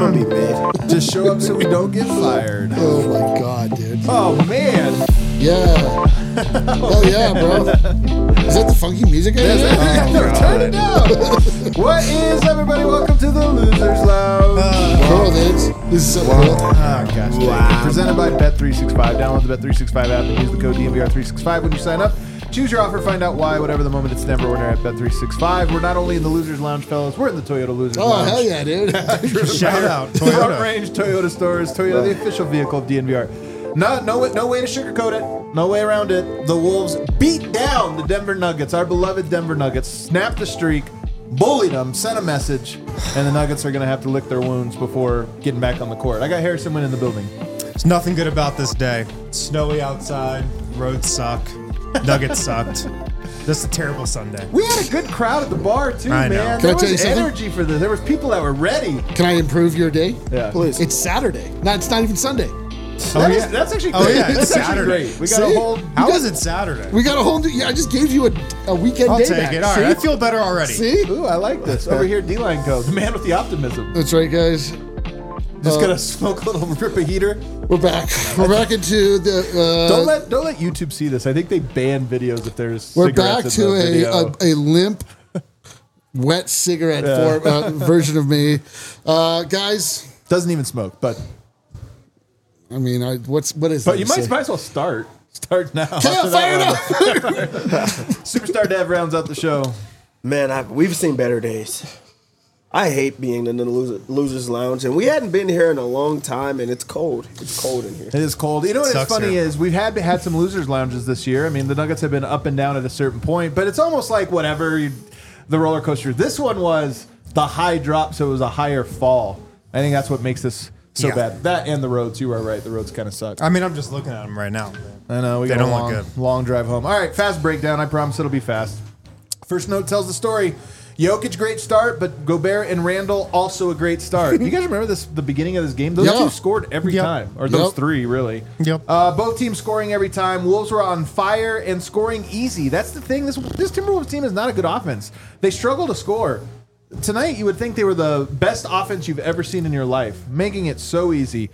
gonna be mid. Just show up so we don't get fired. Oh my god, dude. Oh man. Yeah. Oh yeah, bro. Is that the funky music? Turn it down. What is everybody? Welcome to the Losers Lounge. Cool, dudes. This is so cool. Oh gosh. Wow. Presented by Bet365. Download the Bet365 app and use the code DNVR365 when you sign up. Choose your offer, find out why, whatever the moment, it's never order at Bet365. We're not only in the Losers Lounge, fellas, we're in the Toyota Losers Lounge. Oh, hell yeah, dude. Shout out, Front Toyota. Range Toyota stores. Toyota, the official vehicle of DNVR. No way to sugarcoat it. No way around it. The Wolves beat down the Denver Nuggets, our beloved Denver Nuggets, snapped the streak, bullied them, sent a message, and the Nuggets are going to have to lick their wounds before getting back on the court. I got Harrison Wynn in the building. There's nothing good about this day. Snowy outside, roads suck, Nuggets sucked. Just a terrible Sunday. We had a good crowd at the bar, too, I know. man. Can I There tell you was something? energy for this. There was people that were ready. Can I improve your day? Yeah. Please. It's Saturday. No, it's not even Sunday. That's actually great. Oh, yeah, it's That's actually Saturday. great. We got a See? whole... How is it Saturday? We got a whole new. Yeah, I just gave you a weekend I'll day take back. it. All See? right, I feel better already. See? Ooh, I like this. Over here, D-Line Co. The man with the optimism. That's right, guys. Just gonna smoke a little rip a heater. We're back. We're back into the. Don't let YouTube see this. I think they ban videos if there's. We're back cigarettes to in the video. a limp, wet cigarette version of me, guys. Doesn't even smoke, but I mean, what is? but that you to might say? as well start. Start now. Yeah, fire it up. Superstar Dev rounds out the show. Man, we've seen better days. I hate being in the Losers Lounge, and we hadn't been here in a long time, and it's cold. It's cold in here. It is cold. You know what's Sucks funny here. is we've had some losers lounges this year. I mean, the Nuggets have been up and down at a certain point, but it's almost like whatever the roller coaster. This one was the high drop, so it was a higher fall. I think that's what makes this so Yeah. bad. That and the roads. You are right. The roads kind of suck. I mean, I'm just looking at them right now. I know. We They got don't a look long, good. long drive home. All right, fast breakdown. I promise it'll be fast. First note tells the story. Jokic, great start, but Gobert and Randall, also a great start. You guys remember the beginning of this game? Those Yeah. two scored every Yep. time. Or those Yep. three, really. Yep. Both teams scoring every time. Wolves were on fire and scoring easy. That's the thing. This Timberwolves team is not a good offense. They struggle to score. Tonight, you would think they were the best offense you've ever seen in your life, making it so easy.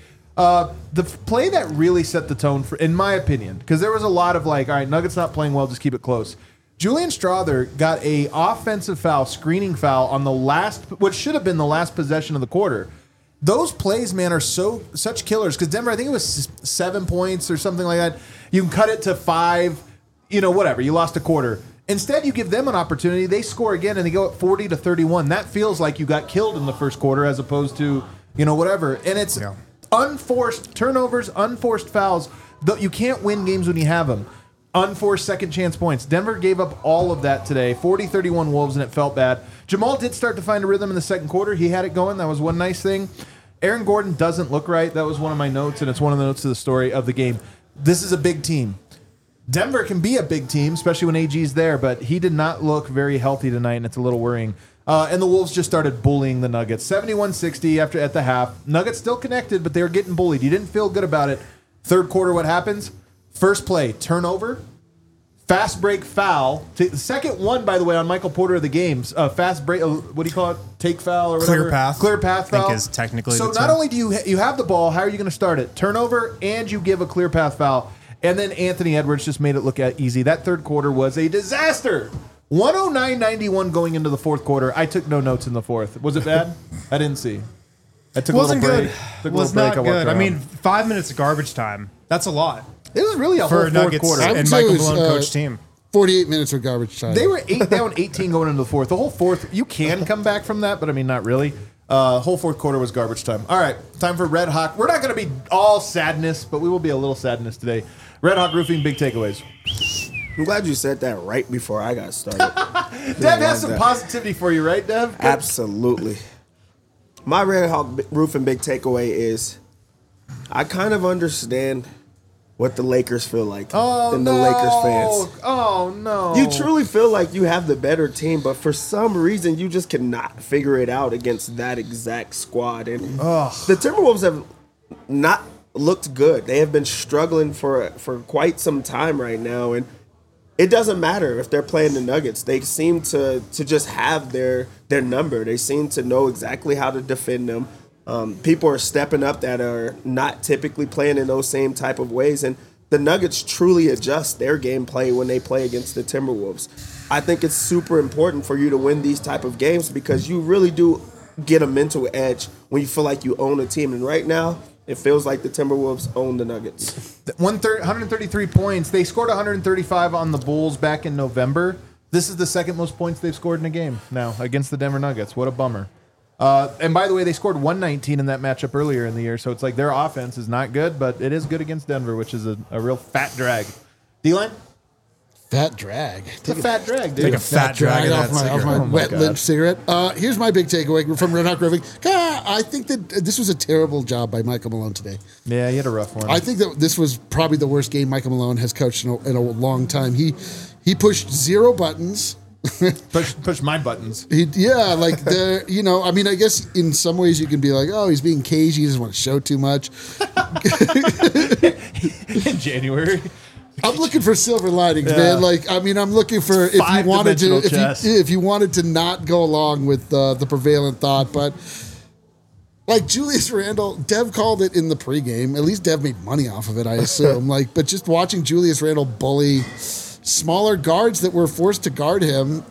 The play that really set the tone, for, in my opinion, because there was a lot of like, all right, Nuggets not playing well, just keep it close. Julian Strawther got a offensive foul, screening foul on the last, what should have been the last possession of the quarter. Those plays, man, are such killers because Denver, I think it was 7 points or something like that. You can cut it to 5, whatever. You lost a quarter. Instead, you give them an opportunity. They score again and they go at 40-31. That feels like you got killed in the first quarter as opposed to, whatever. And it's unforced turnovers, unforced fouls. You can't win games when you have them. Unforced second chance points. Denver gave up all of that today. 40-31 Wolves, and it felt bad. Jamal did start to find a rhythm in the second quarter. He had it going. That was one nice thing. Aaron Gordon doesn't look right. That was one of my notes, and it's one of the notes of the story of the game. This is a big team. Denver can be a big team, especially when AG's there, but he did not look very healthy tonight, and it's a little worrying. And the Wolves just started bullying the Nuggets. 71-60 at the half. Nuggets still connected, but they were getting bullied. You didn't feel good about it. Third quarter, what happens? First play, turnover, fast break foul. The second one, by the way, on Michael Porter of the games. Fast break, what do you call it? Take foul or whatever? Clear path, foul. I think is technically So the not term. only do you have the ball, how are you going to start it? Turnover, and you give a clear path foul. And then Anthony Edwards just made it look easy. That third quarter was a disaster. 109-91 going into the fourth quarter. I took no notes in the fourth. Was it bad? I didn't see. I took Wasn't a little break. good. Took a Was little break. not I walked good. I around. mean, 5 minutes of garbage time. That's a lot it was really a for whole a fourth Nuggets quarter. I would and say it Michael was, Malone coach team. 48 minutes of garbage time. They were down 18 going into the fourth. The whole fourth, you can come back from that, but I mean, not really. Whole fourth quarter was garbage time. All right, time for Red Hawk. We're not going to be all sadness, but we will be a little sadness today. Red Hawk Roofing, big takeaways. I'm glad you said that right before I got started. Dev has some positivity for you, right, Dev? Absolutely. My Red Hawk Roofing big takeaway is I kind of understand what the Lakers feel like and the Lakers fans. Oh, no. You truly feel like you have the better team, but for some reason you just cannot figure it out against that exact squad. And the Timberwolves have not looked good. They have been struggling for quite some time right now, and it doesn't matter if they're playing the Nuggets. They seem to just have their number. They seem to know exactly how to defend them. People are stepping up that are not typically playing in those same type of ways, and the Nuggets truly adjust their gameplay when they play against the Timberwolves. I think it's super important for you to win these type of games because you really do get a mental edge when you feel like you own a team. And right now, it feels like the Timberwolves own the Nuggets. 133 points. They scored 135 on the Bulls back in November. This is the second most points they've scored in a game now against the Denver Nuggets. What a bummer. And by the way, they scored 119 in that matchup earlier in the year, so it's like their offense is not good, but it is good against Denver, which is a real fat drag. D-line? Fat drag. It's a fat drag, dude. Take a fat drag off my wet lip cigarette. Here's my big takeaway from Red Hawk Roofing. I think that this was a terrible job by Michael Malone today. Yeah, he had a rough one. I think that this was probably the worst game Michael Malone has coached in a long time. He pushed 0 buttons. Push my buttons. I guess in some ways you can be like, oh, he's being cagey, he doesn't want to show too much. In January. I'm looking for silver linings, man. I'm looking for if you wanted to not go along with the prevalent thought, but like Julius Randle, Dev called it in the pregame. At least Dev made money off of it, I assume. But just watching Julius Randle bully smaller guards that were forced to guard him,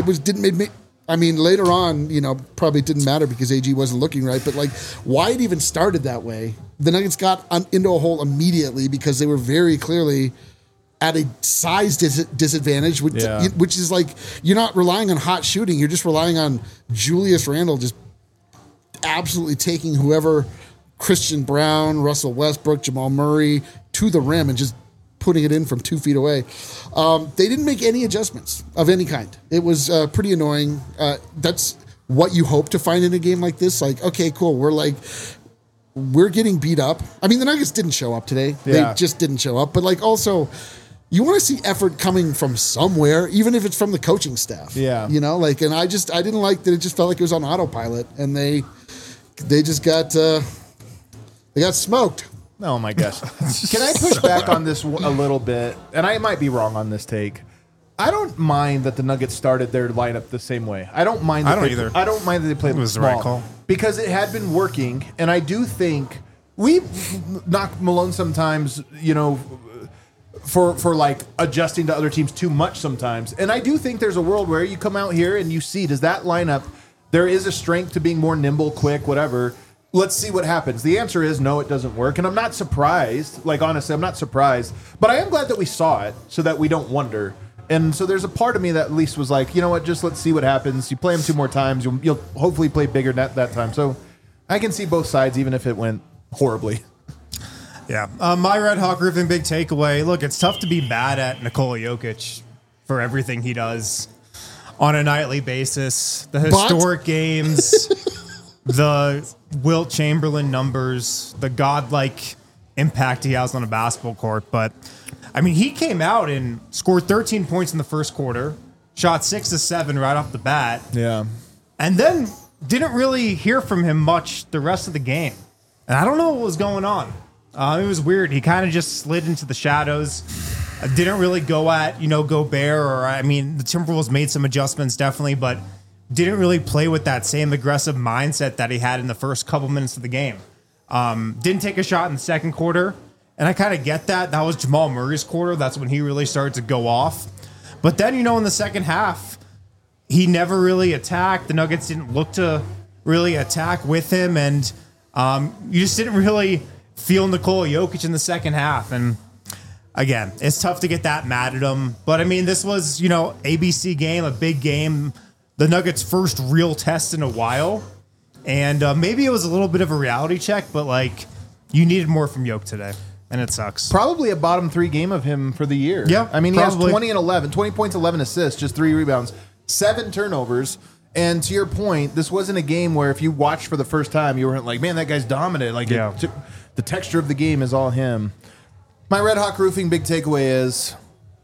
later on, probably didn't matter because AG wasn't looking right, but why it even started that way, the Nuggets got into a hole immediately because they were very clearly at a size disadvantage, which is like, you're not relying on hot shooting, you're just relying on Julius Randle just absolutely taking whoever, Christian Brown, Russell Westbrook, Jamal Murray, to the rim and just putting it in from 2 feet away. They didn't make any adjustments of any kind. It was pretty annoying. That's what you hope to find in a game like this. Okay, cool. We're getting beat up. I mean, the Nuggets didn't show up today. Yeah. They just didn't show up. But also, you want to see effort coming from somewhere, even if it's from the coaching staff. Yeah. And I didn't like that it just felt like it was on autopilot, and they just got smoked. Oh my gosh. Can I push back on this a little bit? And I might be wrong on this take. I don't mind that the Nuggets started their lineup the same way. I don't mind that either. I don't mind that they played it was small, the right call. because it had been working, and I do think we knock Malone sometimes, for adjusting to other teams too much sometimes. And I do think there's a world where you come out here and you see, does that lineup, there is a strength to being more nimble, quick, whatever. Let's see what happens. The answer is no, it doesn't work. And I'm not surprised. Honestly, I'm not surprised. But I am glad that we saw it so that we don't wonder. And so there's a part of me that at least was like, you know what, just let's see what happens. You play them 2 more times, you'll hopefully play bigger that time. So I can see both sides, even if it went horribly. Yeah. My Red Hawk Roofing big takeaway. Look, it's tough to be mad at Nikola Jokic for everything he does on a nightly basis. The historic games, the Wilt Chamberlain numbers, the godlike impact he has on a basketball court. But, he came out and scored 13 points in the first quarter, shot 6 of 7 right off the bat. Yeah. And then didn't really hear from him much the rest of the game. And I don't know what was going on. It was weird. He kind of just slid into the shadows. Didn't really go at, Gobert the Timberwolves made some adjustments definitely, but didn't really play with that same aggressive mindset that he had in the first couple minutes of the game. Didn't take a shot in the second quarter, and I kind of get that. That was Jamal Murray's quarter. That's when he really started to go off. But then, in the second half, he never really attacked. The Nuggets didn't look to really attack with him, and you just didn't really feel Nikola Jokic in the second half. And again, it's tough to get that mad at him. But this was, ABC game, a big game, the Nuggets' first real test in a while. And maybe it was a little bit of a reality check, but you needed more from Jokic today. And it sucks. Probably a bottom 3 game of him for the year. Yeah. He has 20 and 11, 20 points, 11 assists, just 3 rebounds, 7 turnovers. And to your point, this wasn't a game where if you watched for the first time, you weren't like, man, that guy's dominant. The texture of the game is all him. My Red Hawk Roofing big takeaway is,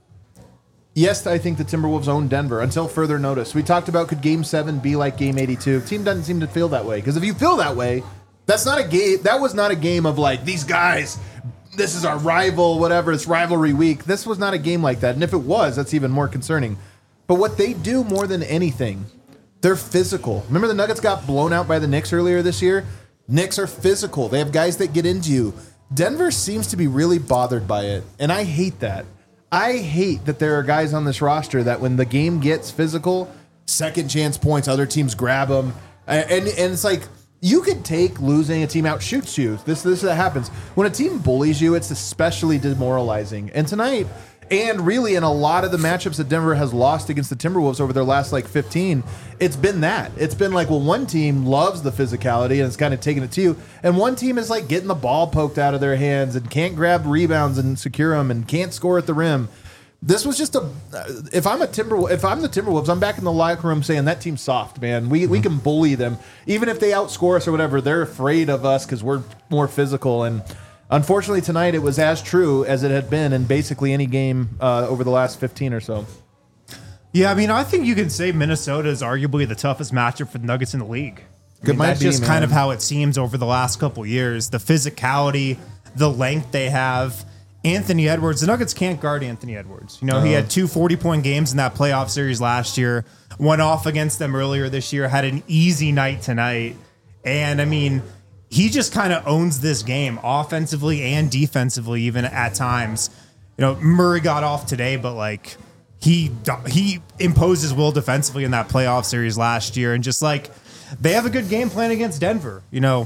yes, I think the Timberwolves own Denver until further notice. We talked about, could Game 7 be like Game 82? Team doesn't seem to feel that way. Because if you feel that way, that's not a game. That was not a game of these guys, this is our rival, whatever, it's rivalry week. This was not a game like that. And if it was, that's even more concerning. But what they do more than anything, they're physical. Remember the Nuggets got blown out by the Knicks earlier this year? Knicks are physical. They have guys that get into you. Denver seems to be really bothered by it, and I hate that. I hate that there are guys on this roster that when the game gets physical, second chance points, other teams grab them, and it's like you could take losing, a team out shoots you. This that happens when a team bullies you. It's especially demoralizing. And tonight, and really in a lot of the matchups that Denver has lost against the Timberwolves over their last 15, it's been that. It's been like, well, one team loves the physicality and it's kind of taking it to you, and one team is like getting the ball poked out of their hands and can't grab rebounds and secure them and can't score at the rim. This was just if I'm the Timberwolves, I'm back in the locker room saying that team's soft, man. We can bully them. Even if they outscore us or whatever, they're afraid of us because we're more physical. And unfortunately tonight it was as true as it had been in basically any game over the last 15 or so. Yeah, I mean, I think you can say Minnesota is arguably the toughest matchup for the Nuggets in the league. That's just kind of how it seems over the last couple of years. The physicality, the length they have. Anthony Edwards, the Nuggets can't guard Anthony Edwards. He had 2 40-point games in that playoff series last year, went off against them earlier this year, had an easy night tonight. And, I mean, he just kind of owns this game offensively and defensively, even at times. Murray got off today, but, like, he imposed his will defensively in that playoff series last year. And just, like, they have a good game plan against Denver.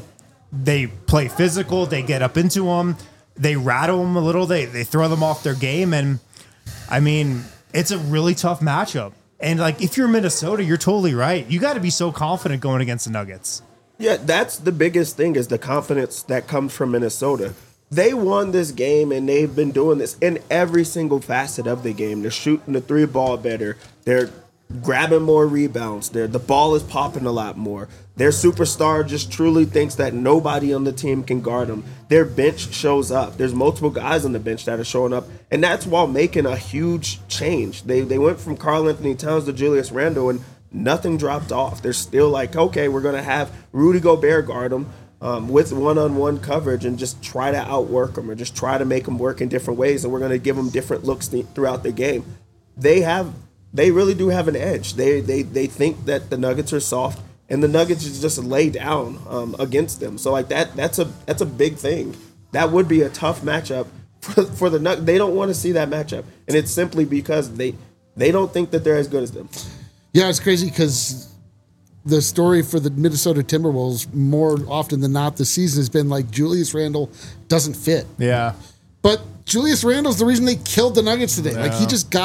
They play physical. They get up into them. They rattle them a little. They throw them off their game. And, I mean, it's a really tough matchup. And, like, if you're Minnesota, you're totally right. You got to be so confident going against the Nuggets. Yeah, that's the biggest thing is the confidence that comes from Minnesota. They won this game, and they've been doing this in every single facet of the game. They're shooting the 3-ball better. They're grabbing more rebounds. The ball is popping a lot more. Their superstar just truly thinks that nobody on the team can guard them. Their bench shows up. There's multiple guys on the bench that are showing up, and that's while making a huge change. They went from Karl-Anthony Towns to Julius Randle, and nothing dropped off. They're still like, okay, we're going to have Rudy Gobert guard them with one-on-one coverage and just try to outwork them or just try to make them work in different ways, and we're going to give them different looks throughout the game. They really do have an edge. They think that the Nuggets are soft, and the Nuggets just lay down against them. So like that's a big thing. That would be a tough matchup for the Nuggets. They don't want to see that matchup, and it's simply because they don't think that they're as good as them. Yeah, it's crazy because the story for the Minnesota Timberwolves more often than not this season has been like Julius Randle doesn't fit. Yeah. But Julius Randle's the reason they killed the Nuggets today. Yeah. Like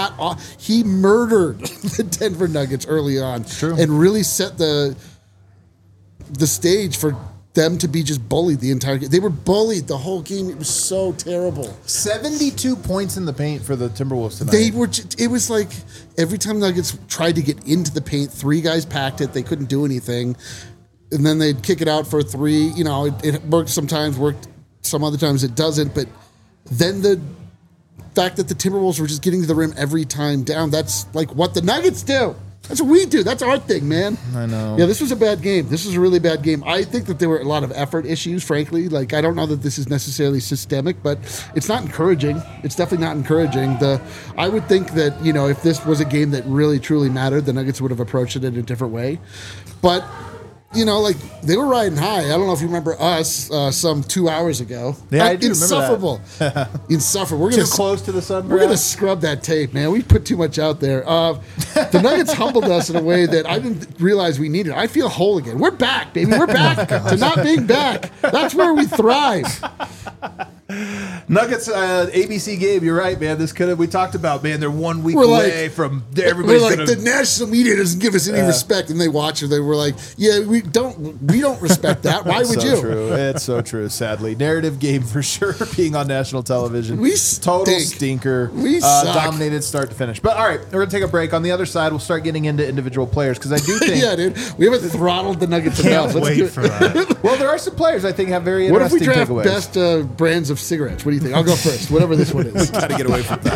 he murdered the Denver Nuggets early on. It's true. And really set the stage for them to be just bullied the entire game. They were bullied the whole game. It was so terrible. 72 points in the paint for the Timberwolves tonight. It was like every time Nuggets tried to get into the paint, 3 guys packed it. They couldn't do anything. And then they'd kick it out for a 3. It worked sometimes, worked some other times it doesn't. But then the fact that the Timberwolves were just getting to the rim every time down, that's like what the Nuggets do. That's what we do. That's our thing, man. I know. Yeah, this was a bad game. This was a really bad game. I think that there were a lot of effort issues, frankly. Like, I don't know that this is necessarily systemic, but it's not encouraging. It's definitely not encouraging. I would think that, if this was a game that really, truly mattered, the Nuggets would have approached it in a different way. But they were riding high. I don't know if you remember us some 2 hours ago. Yeah, I do insufferable. Remember that. Insufferable. We're too close to the sun. We're going to scrub that tape, man. We put too much out there. The Nuggets humbled us in a way that I didn't realize we needed. I feel whole again. We're back, baby. We're back to not being back. That's where we thrive. Nuggets, ABC game. You're right, man. We talked about, man. They're 1 week away from everybody's. We're like the national media doesn't give us any respect, and they watch it. They were like, yeah, we don't respect that. Why would you? True. It's so true. Sadly, narrative game for sure. Being on national television, we total stinker. We dominated start to finish. But all right, we're gonna take a break. On the other side, we'll start getting into individual players because I do think, yeah, dude, we haven't throttled the Nuggets enough. Let's wait for that. Well, there are some players I think have very interesting takeaways. takeaways. What if we draft best brands of cigarettes? What do you think? I'll go first. Whatever this one is. We gotta get away from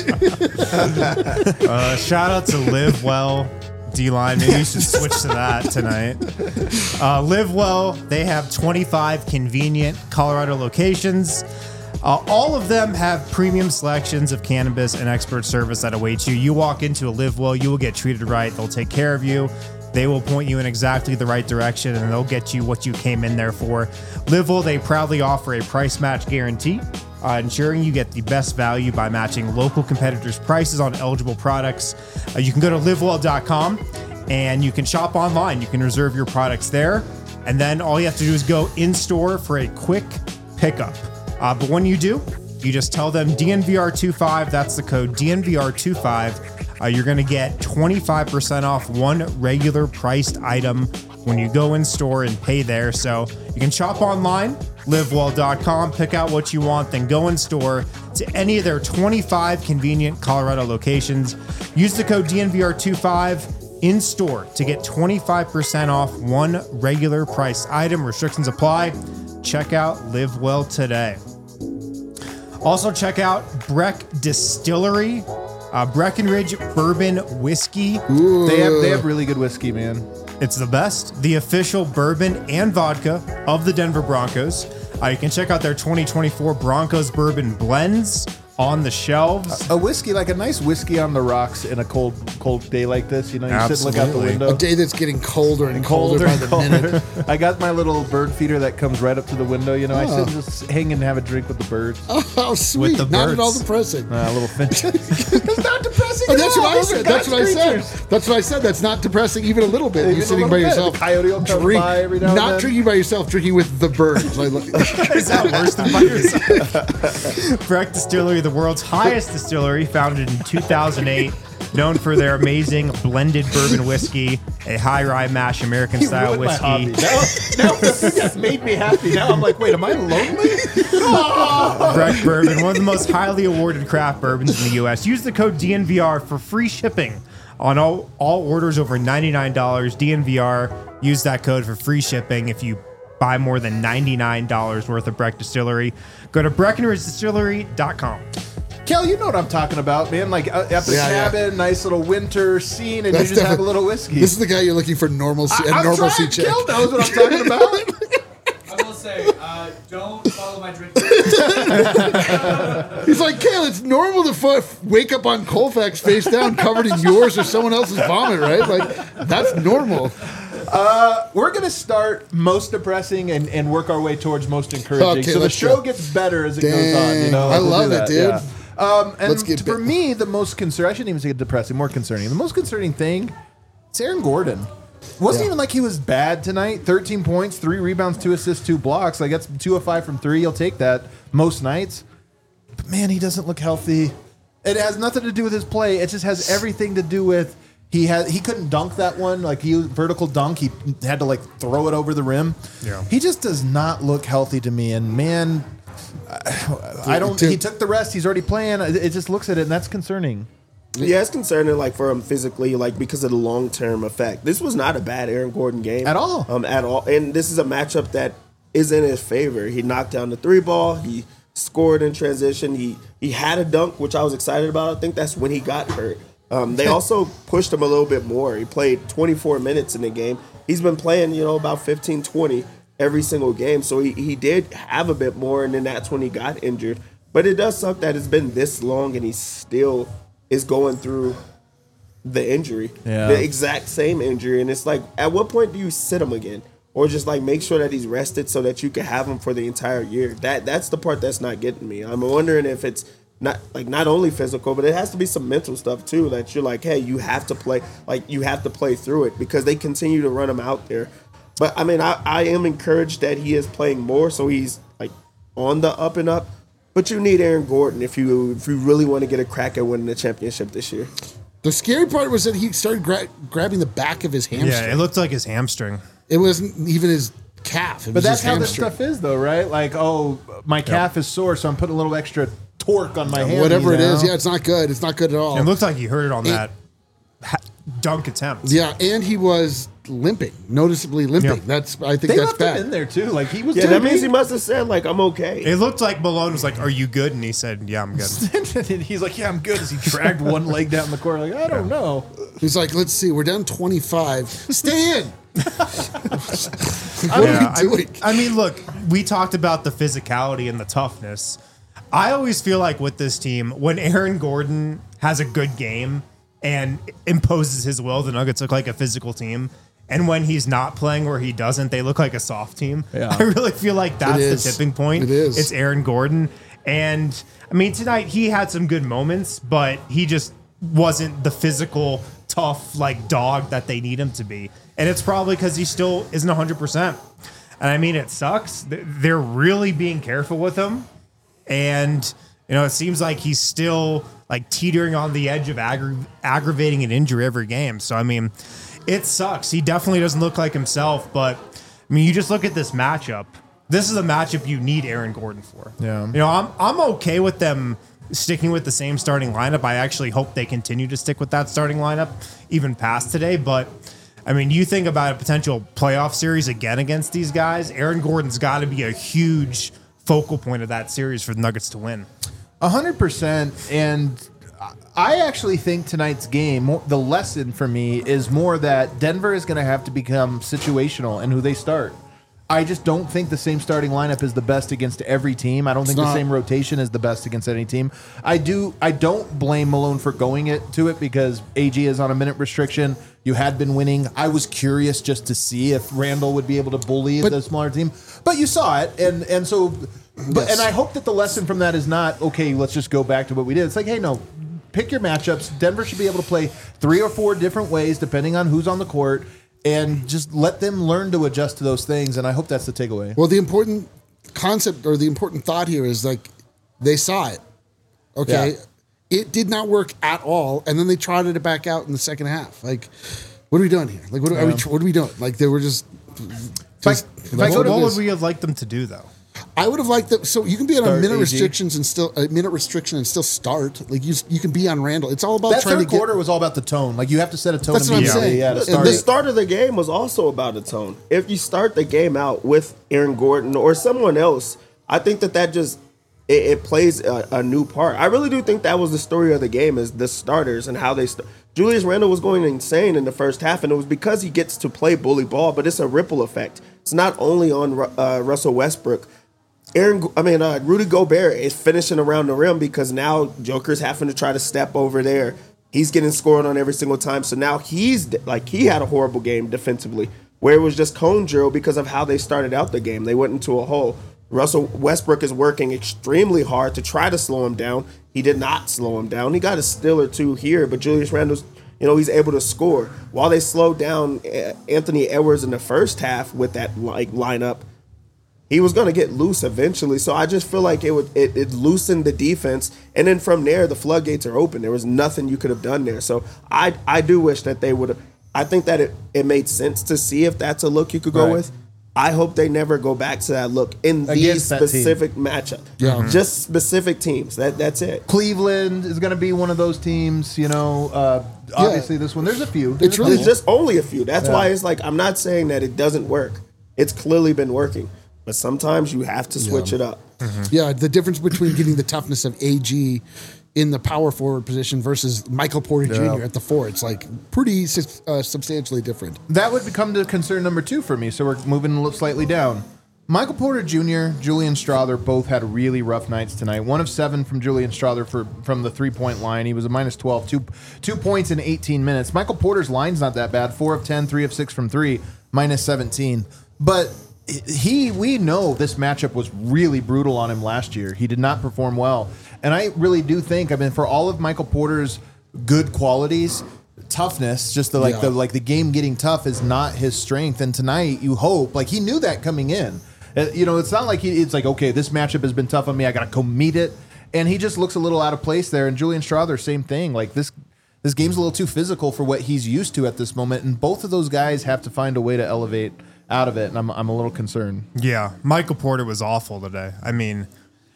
that. Shout out to Live Well. D-line, maybe you should switch to that tonight. Live Well, they have 25 convenient Colorado locations. All of them have premium selections of cannabis and expert service that awaits you. You walk into a Live Well, you will get treated right. They'll take care of you. They will point you in exactly the right direction, and they'll get you what you came in there for. Livewell, they proudly offer a price match guarantee, ensuring you get the best value by matching local competitors' prices on eligible products. You can go to livewell.com and you can shop online. You can reserve your products there, and then all you have to do is go in store for a quick pickup. But when you do, you just tell them DNVR25. That's the code DNVR25. You're going to get 25% off one regular priced item when you go in store and pay there. So you can shop online, livewell.com, pick out what you want, then go in store to any of their 25 convenient Colorado locations. Use the code DNVR25 in store to get 25% off one regular priced item. Restrictions apply. Check out Livewell today. Also check out Breck Distillery. Breckenridge Bourbon Whiskey. They have really good whiskey, man. It's the best. The official bourbon and vodka of the Denver Broncos. You can check out their 2024 Broncos Bourbon Blends on the shelves. A whiskey, like a nice whiskey on the rocks in a cold day like this. You know, you sit and look out the window. A day that's getting colder and colder by the minute. I got my little bird feeder that comes right up to the window. You know, I sit and just hang and have a drink with the birds. Oh, sweet. the Not birds. at all depressing. A little finch. It's not depressing Oh, at that's all. what I Those are said. That's what I God's said. creatures. That's what I said. That's not depressing even a little bit. Even You're a sitting little by bit. yourself. The coyote will come by every now and not then. drinking by yourself, drinking with the birds. Is that worse than by yourself? Breck Distillery, the world's highest distillery, founded in 2008, known for their amazing blended bourbon whiskey, a high rye mash American You style ruined my hobby. whiskey. Now that made me happy. Now I'm like, wait, am I lonely? Breck Bourbon, one of the most highly awarded craft bourbons in the U.S. Use the code DNVR for free shipping on all orders over $99. DNVR, use that code for free shipping if you buy more than $99 worth of Breck Distillery. Go to BreckenridgeDistillery.com. Kel, you know what I'm talking about, man. Like at the Yeah. cabin, nice little winter scene, and That's you just have a definitely- little whiskey. This is the guy you're looking for normalcy and I'm normalcy trying. check. Kel knows what I'm talking about. I will say, don't follow my drink. He's like, Kale, it's normal to wake up on Colfax face down covered in yours or someone else's vomit, right? Like, that's normal. We're going to start most depressing and work our way towards most encouraging. Okay, so the let's show go. gets better as it goes on. You know, I We'll do love it, that, dude. yeah. And Let's get for me, the most concerning, I shouldn't even say depressing, more concerning. The most concerning thing, it's Aaron Gordon. Wasn't even like he was bad tonight. 13 points, 3 rebounds, 2 assists, 2 blocks. Like that's 2 of 5 from 3. You'll take that most nights. But man, he doesn't look healthy. It has nothing to do with his play. It just has everything to do with he couldn't dunk that one. Like he vertical dunk. He had to like throw it over the rim. Yeah. He just does not look healthy to me. And man, I don't. He took the rest. He's already playing. It just looks at it, and that's concerning. Yeah, it's concerning, like for him physically, like because of the long term effect. This was not a bad Aaron Gordon game At all. at all. And this is a matchup that is in his favor. He knocked down the 3 ball. He scored in transition. He had a dunk, which I was excited about. I think that's when he got hurt. They also pushed him a little bit more. He played 24 minutes in the game. He's been playing, about 15, 20 every single game. So he did have a bit more, and then that's when he got injured. But it does suck that it's been this long and he still is going through the injury, the exact same injury. And it's like, at what point do you sit him again? Or just like make sure that he's rested so that you can have him for the entire year. That's the part that's not getting me. I'm wondering if it's not only physical, but it has to be some mental stuff too, that you're like, hey, you have to play through it, because they continue to run him out there. But I mean, I am encouraged that he is playing more, so he's like on the up and up. But you need Aaron Gordon if you really want to get a crack at winning the championship this year. The scary part was that he started grabbing the back of his hamstring. Yeah, it looked like his hamstring. It wasn't even his calf. It But was that's his how this hamstring. stuff is, though, right? Like, oh, my calf is sore, so I'm putting a little extra torque on my hand. Whatever it is, now. yeah, it's not good. It's not good at all. It looked like he hurt it on that dunk attempt. Yeah, and he was limping, noticeably limping. Yeah. I think They that's left bad. him in there too. Like he was. Yeah, that doing means he must have said, like, I'm okay. It looked like Malone was like, "Are you good?" And he said, "Yeah, I'm good." and he's like, "Yeah, I'm good." As he dragged one leg down the court, like I don't know. He's like, let's see, we're down 25. Stay in. What Yeah, are we doing? I mean, look, we talked about the physicality and the toughness. I always feel like with this team, when Aaron Gordon has a good game and imposes his will, the Nuggets look like a physical team. And when he's not playing or he doesn't, they look like a soft team. Yeah. I really feel like that's the tipping point. It is. It's Aaron Gordon. And I mean, tonight he had some good moments, but he just wasn't the physical, tough, like dog that they need him to be. And it's probably because he still isn't 100%. And I mean, it sucks. They're really being careful with him. And, you know, it seems like he's still like teetering on the edge of aggravating an injury every game. So, I mean, it sucks. He definitely doesn't look like himself. But, I mean, you just look at this matchup. This is a matchup you need Aaron Gordon for. Yeah. You know, I'm okay with them sticking with the same starting lineup. I actually hope they continue to stick with that starting lineup even past today. But, I mean, you think about a potential playoff series again against these guys, Aaron Gordon's got to be a huge focal point of that series for the Nuggets to win. 100%. And I actually think tonight's game, the lesson for me is more that Denver is going to have to become situational in who they start. I just don't think the same starting lineup is the best against every team. I don't think the same rotation is the best against any team. I don't blame Malone for going to it because AG is on a minute restriction. You had been winning. I was curious just to see if Randall would be able to bully the smaller team. But you saw it, and so but and I hope that the lesson from that is not, okay, let's just go back to what we did. It's like, hey, no, pick your matchups. Denver should be able to play 3 or 4 different ways depending on who's on the court. And just let them learn to adjust to those things. And I hope that's the takeaway. Well, the important concept or the important thought here is like they saw it. Okay. Yeah. It did not work at all. And then they trotted it back out in the second half. Like, what are we doing here? Like, what are we doing? Like, they were just what would we have liked them to do, though? I would have liked them. So you can be on a minute AG. restrictions and still a minute restriction and still start. Like you can be on Randall. It's all about That trying third to get. quarter was all about the tone. Like you have to set a tone. That's what I'm immediately. saying. Yeah, to And start The it. start of the game was also about a tone. If you start the game out with Aaron Gordon or someone else, I think that just it plays a new part. I really do think that was the story of the game, is the starters and how they Julius Randle was going insane in the first half, and it was because he gets to play bully ball, but it's a ripple effect. It's not only on Russell Westbrook. Rudy Gobert is finishing around the rim because now Joker's having to try to step over there. He's getting scored on every single time. So now he had a horrible game defensively, where it was just cone drill because of how they started out the game. They went into a hole. Russell Westbrook is working extremely hard to try to slow him down. He did not slow him down. He got a steal or two here, but Julius Randle's, he's able to score. While they slowed down Anthony Edwards in the first half with that lineup, he was going to get loose eventually. So I just feel like it loosened the defense. And then from there, the floodgates are open. There was nothing you could have done there. So I do wish that they would have. I think that it made sense to see if that's a look you could go with. I hope they never go back to that look in these specific matchup. Yeah. Just specific teams. That's it. Cleveland is going to be one of those teams. Obviously this one. There's a few. It's really There's just only a few. That's why it's like, I'm not saying that it doesn't work. It's clearly been working. But sometimes you have to switch it up. Yeah, the difference between getting the toughness of AG in the power forward position versus Michael Porter Jr. at the 4, it's like pretty substantially different. That would become the concern number 2 for me. So we're moving slightly down. Michael Porter Jr., Julian Strawther both had really rough nights tonight. 1 of 7 from Julian Strawther from the 3-point line. He was a minus 12, 2 points in 18 minutes. Michael Porter's line's not that bad. 4 of 10, 3 of 6 from 3, minus 17. But we know this matchup was really brutal on him last year. He did not perform well. And I really do think, for all of Michael Porter's good qualities, toughness, just the game getting tough is not his strength. And tonight, you hope, he knew that coming in. It's not like it's like, okay, this matchup has been tough on me, I got to go meet it. And he just looks a little out of place there. And Julian Strawther, same thing. This game's a little too physical for what he's used to at this moment. And both of those guys have to find a way to elevate out of it, and I'm a little concerned. Yeah, Michael Porter was awful today. I mean,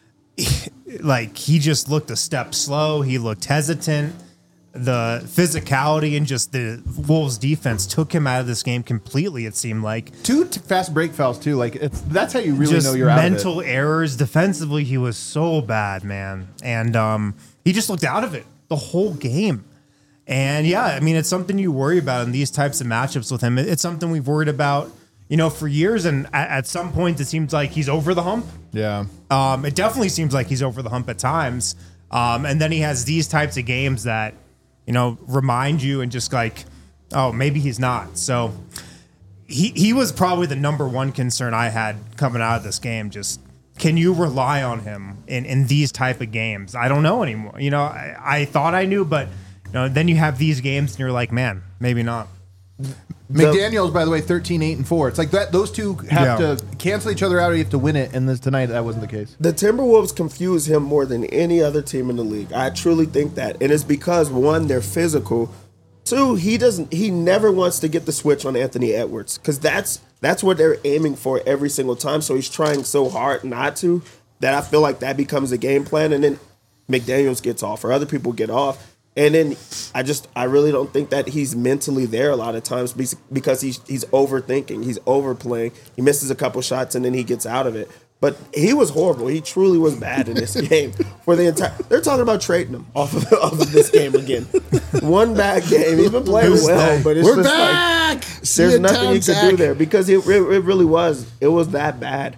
he just looked a step slow. He looked hesitant. The physicality and just the Wolves defense took him out of this game completely, it seemed like. 2 fast break fouls, too. That's how you really just know you're out of it. Mental errors. Defensively, he was so bad, man. And he just looked out of it the whole game. And, yeah, it's something you worry about in these types of matchups with him. It's something we've worried about for years, and at some point it seems like he's over the hump. Yeah. It definitely seems like he's over the hump at times. And then he has these types of games that, remind you and just oh, maybe he's not. So, he was probably the number one concern I had coming out of this game. Just can you rely on him in these type of games? I don't know anymore. I thought I knew, but then you have these games and you're like, man, maybe not. McDaniels, by the way, 13-8-4. It's like that. Those two have to cancel each other out, or you have to win it. And tonight, that wasn't the case. The Timberwolves confuse him more than any other team in the league. I truly think that, and it's because one, they're physical. Two, he never wants to get the switch on Anthony Edwards because that's what they're aiming for every single time. So he's trying so hard not to that I feel like that becomes a game plan, and then McDaniels gets off or other people get off. And then I really don't think that he's mentally there a lot of times because he's overthinking, he's overplaying. He misses a couple shots and then he gets out of it. But he was horrible. He truly was bad in this game for the entire. They're talking about trading him off of this game again. One bad game. He's been playing well, but it's We're just back. like there's nothing he could do there because it really was that bad.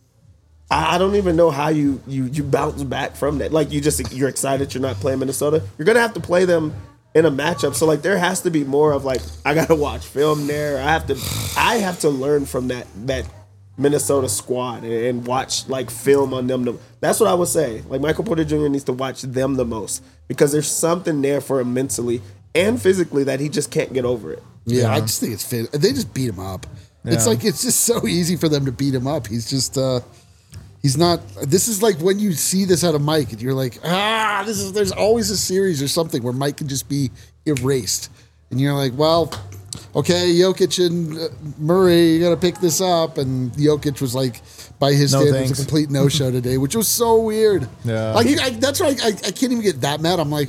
I don't even know how you bounce back from that. Like you're excited you're not playing Minnesota. You're gonna have to play them in a matchup. So like there has to be more of like I gotta watch film there. I have to learn from that Minnesota squad and watch like film on them. That's what I would say. Like Michael Porter Jr. needs to watch them the most because there's something there for him mentally and physically that he just can't get over it. Yeah, I just think it's fit. They just beat him up. Yeah. It's like it's just so easy for them to beat him up. He's just he's not. This is like when you see this out of Mike, and you're like, there's always a series or something where Mike can just be erased, and you're like, well, okay, Jokic and Murray, you got to pick this up, and Jokic was like, by his standards, a complete no-show today, which was so weird. Yeah, like that's why I can't even get that mad. I'm like.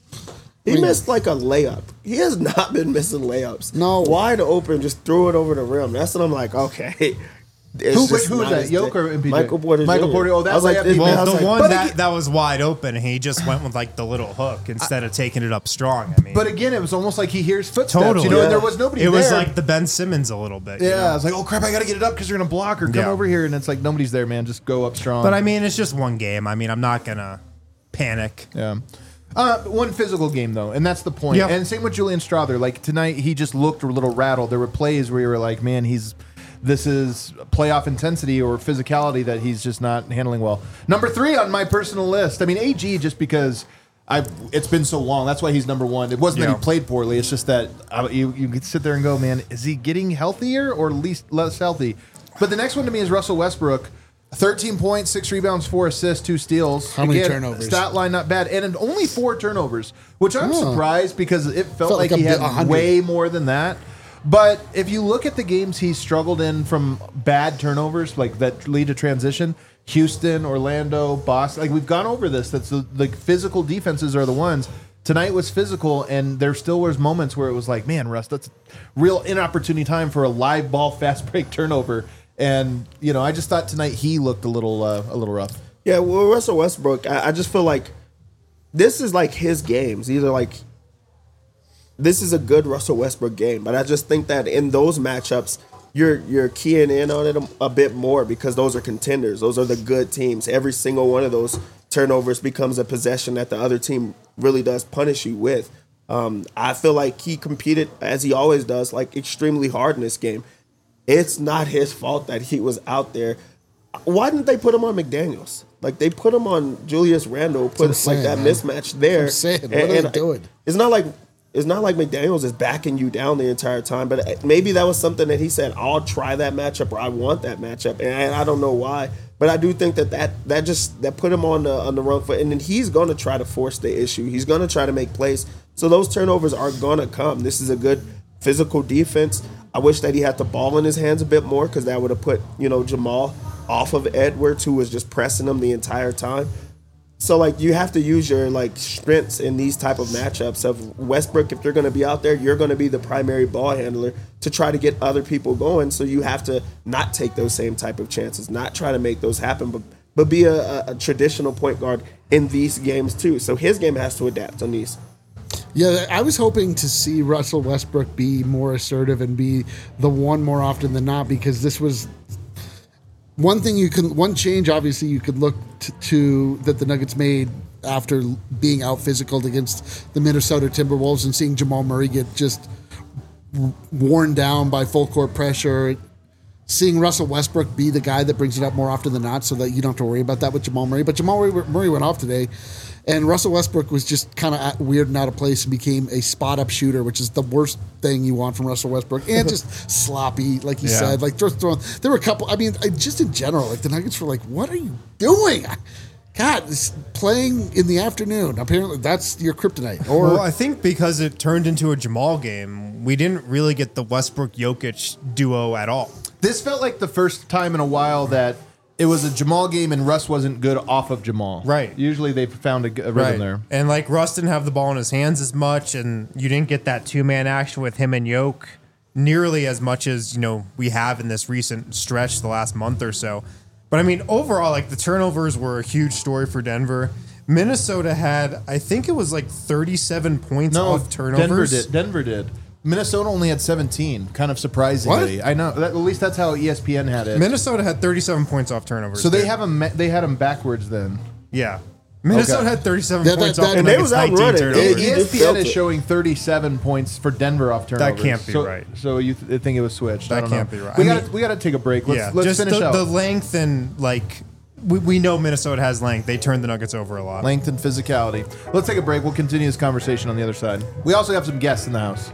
He missed like a layup. He has not been missing layups. No. Wide open, just threw it over the rim. That's what I'm like, okay. Who was that? Yoke or MPJ? Michael Porter Jr. Michael Porter. Oh, that's like, the one that was wide open, he just went with like the little hook instead of taking it up strong. I mean, but again, it was almost like he hears footsteps. Totally. And there was nobody there. It was like the Ben Simmons a little bit. Yeah, I was like, oh crap, I got to get it up because they're going to block or come over here. And it's like, nobody's there, man. Just go up strong. But I mean, it's just one game. I mean, I'm not going to panic. Yeah. One physical game, though, and that's the point. Yep. And same with Julian Strother. Like, tonight, he just looked a little rattled. There were plays where you were like, man, this is playoff intensity or physicality that he's just not handling well. Number 3 on my personal list. I mean, AG, just because it's been so long. That's why he's number 1. It wasn't that he played poorly. It's just that you could sit there and go, man, is he getting healthier or less healthy? But the next one to me is Russell Westbrook. 13 points, 6 rebounds, 4 assists, 2 steals. How many turnovers? Stat line not bad. And only 4 turnovers, which I'm surprised because it felt like he had 100. way more than that. But if you look at the games he's struggled in from bad turnovers, like that lead to transition, Houston, Orlando, Boston, like we've gone over this. That's the physical defenses are the ones. Tonight was physical, and there still was moments where it was like, man, Russ, that's real inopportune time for a live ball fast break turnover. And, I just thought tonight he looked a little rough. Yeah, well, Russell Westbrook, I just feel like this is like his games. Either like this is a good Russell Westbrook game, but I just think that in those matchups, you're keying in on it a bit more because those are contenders. Those are the good teams. Every single one of those turnovers becomes a possession that the other team really does punish you with. I feel like he competed, as he always does, like extremely hard in this game. It's not his fault that he was out there. Why didn't they put him on McDaniels? Like they put him on Julius Randle, put like that mismatch there. I'm saying, what are they doing? It's not like McDaniels is backing you down the entire time, but maybe that was something that he said, I'll try that matchup or I want that matchup. And I don't know why, but I do think that put him on the wrong foot. And then he's going to try to force the issue. He's going to try to make plays. So those turnovers are going to come. This is a good physical defense. I wish that he had the ball in his hands a bit more because that would have put, Jamal off of Edwards, who was just pressing him the entire time. So, like, you have to use your, strengths in these type of matchups of Westbrook. If you're going to be out there, you're going to be the primary ball handler to try to get other people going. So you have to not take those same type of chances, not try to make those happen, but be a traditional point guard in these games too. So his game has to adapt on these. Yeah, I was hoping to see Russell Westbrook be more assertive and be the one more often than not because this was one change obviously you could look to that the Nuggets made after being out physical against the Minnesota Timberwolves and seeing Jamal Murray get just worn down by full court pressure. Seeing Russell Westbrook be the guy that brings it up more often than not so that you don't have to worry about that with Jamal Murray. But Jamal Murray went off today, and Russell Westbrook was just kind of weird and out of place and became a spot-up shooter, which is the worst thing you want from Russell Westbrook. And just sloppy, like you said. Like just throwing. There were a couple, just in general, like the Nuggets were like, what are you doing? God, it's playing in the afternoon. Apparently, that's your kryptonite. Well, I think because it turned into a Jamal game, we didn't really get the Westbrook-Jokic duo at all. This felt like the first time in a while that it was a Jamal game and Russ wasn't good off of Jamal. Right. Usually they found a rhythm there. And like Russ didn't have the ball in his hands as much, and you didn't get that two-man action with him and Yoke nearly as much as we have in this recent stretch the last month or so. But I mean, overall, like the turnovers were a huge story for Denver. Minnesota had, I think it was like 37 points off turnovers. Denver did. Minnesota only had 17, kind of surprisingly. What? I know. At least that's how ESPN had it. Minnesota had 37 points off turnovers. So they had them backwards then. Yeah. Minnesota had 37 points off and they Nuggets, was out 19 running. turnovers. ESPN is showing 37 points for Denver off turnovers. That can't be right. So you think it was switched? That I don't can't know. be right. We got to take a break. Let's just finish out. the length and like we know Minnesota has length. They turned the Nuggets over a lot. Length and physicality. Let's take a break. We'll continue this conversation on the other side. We also have some guests in the house.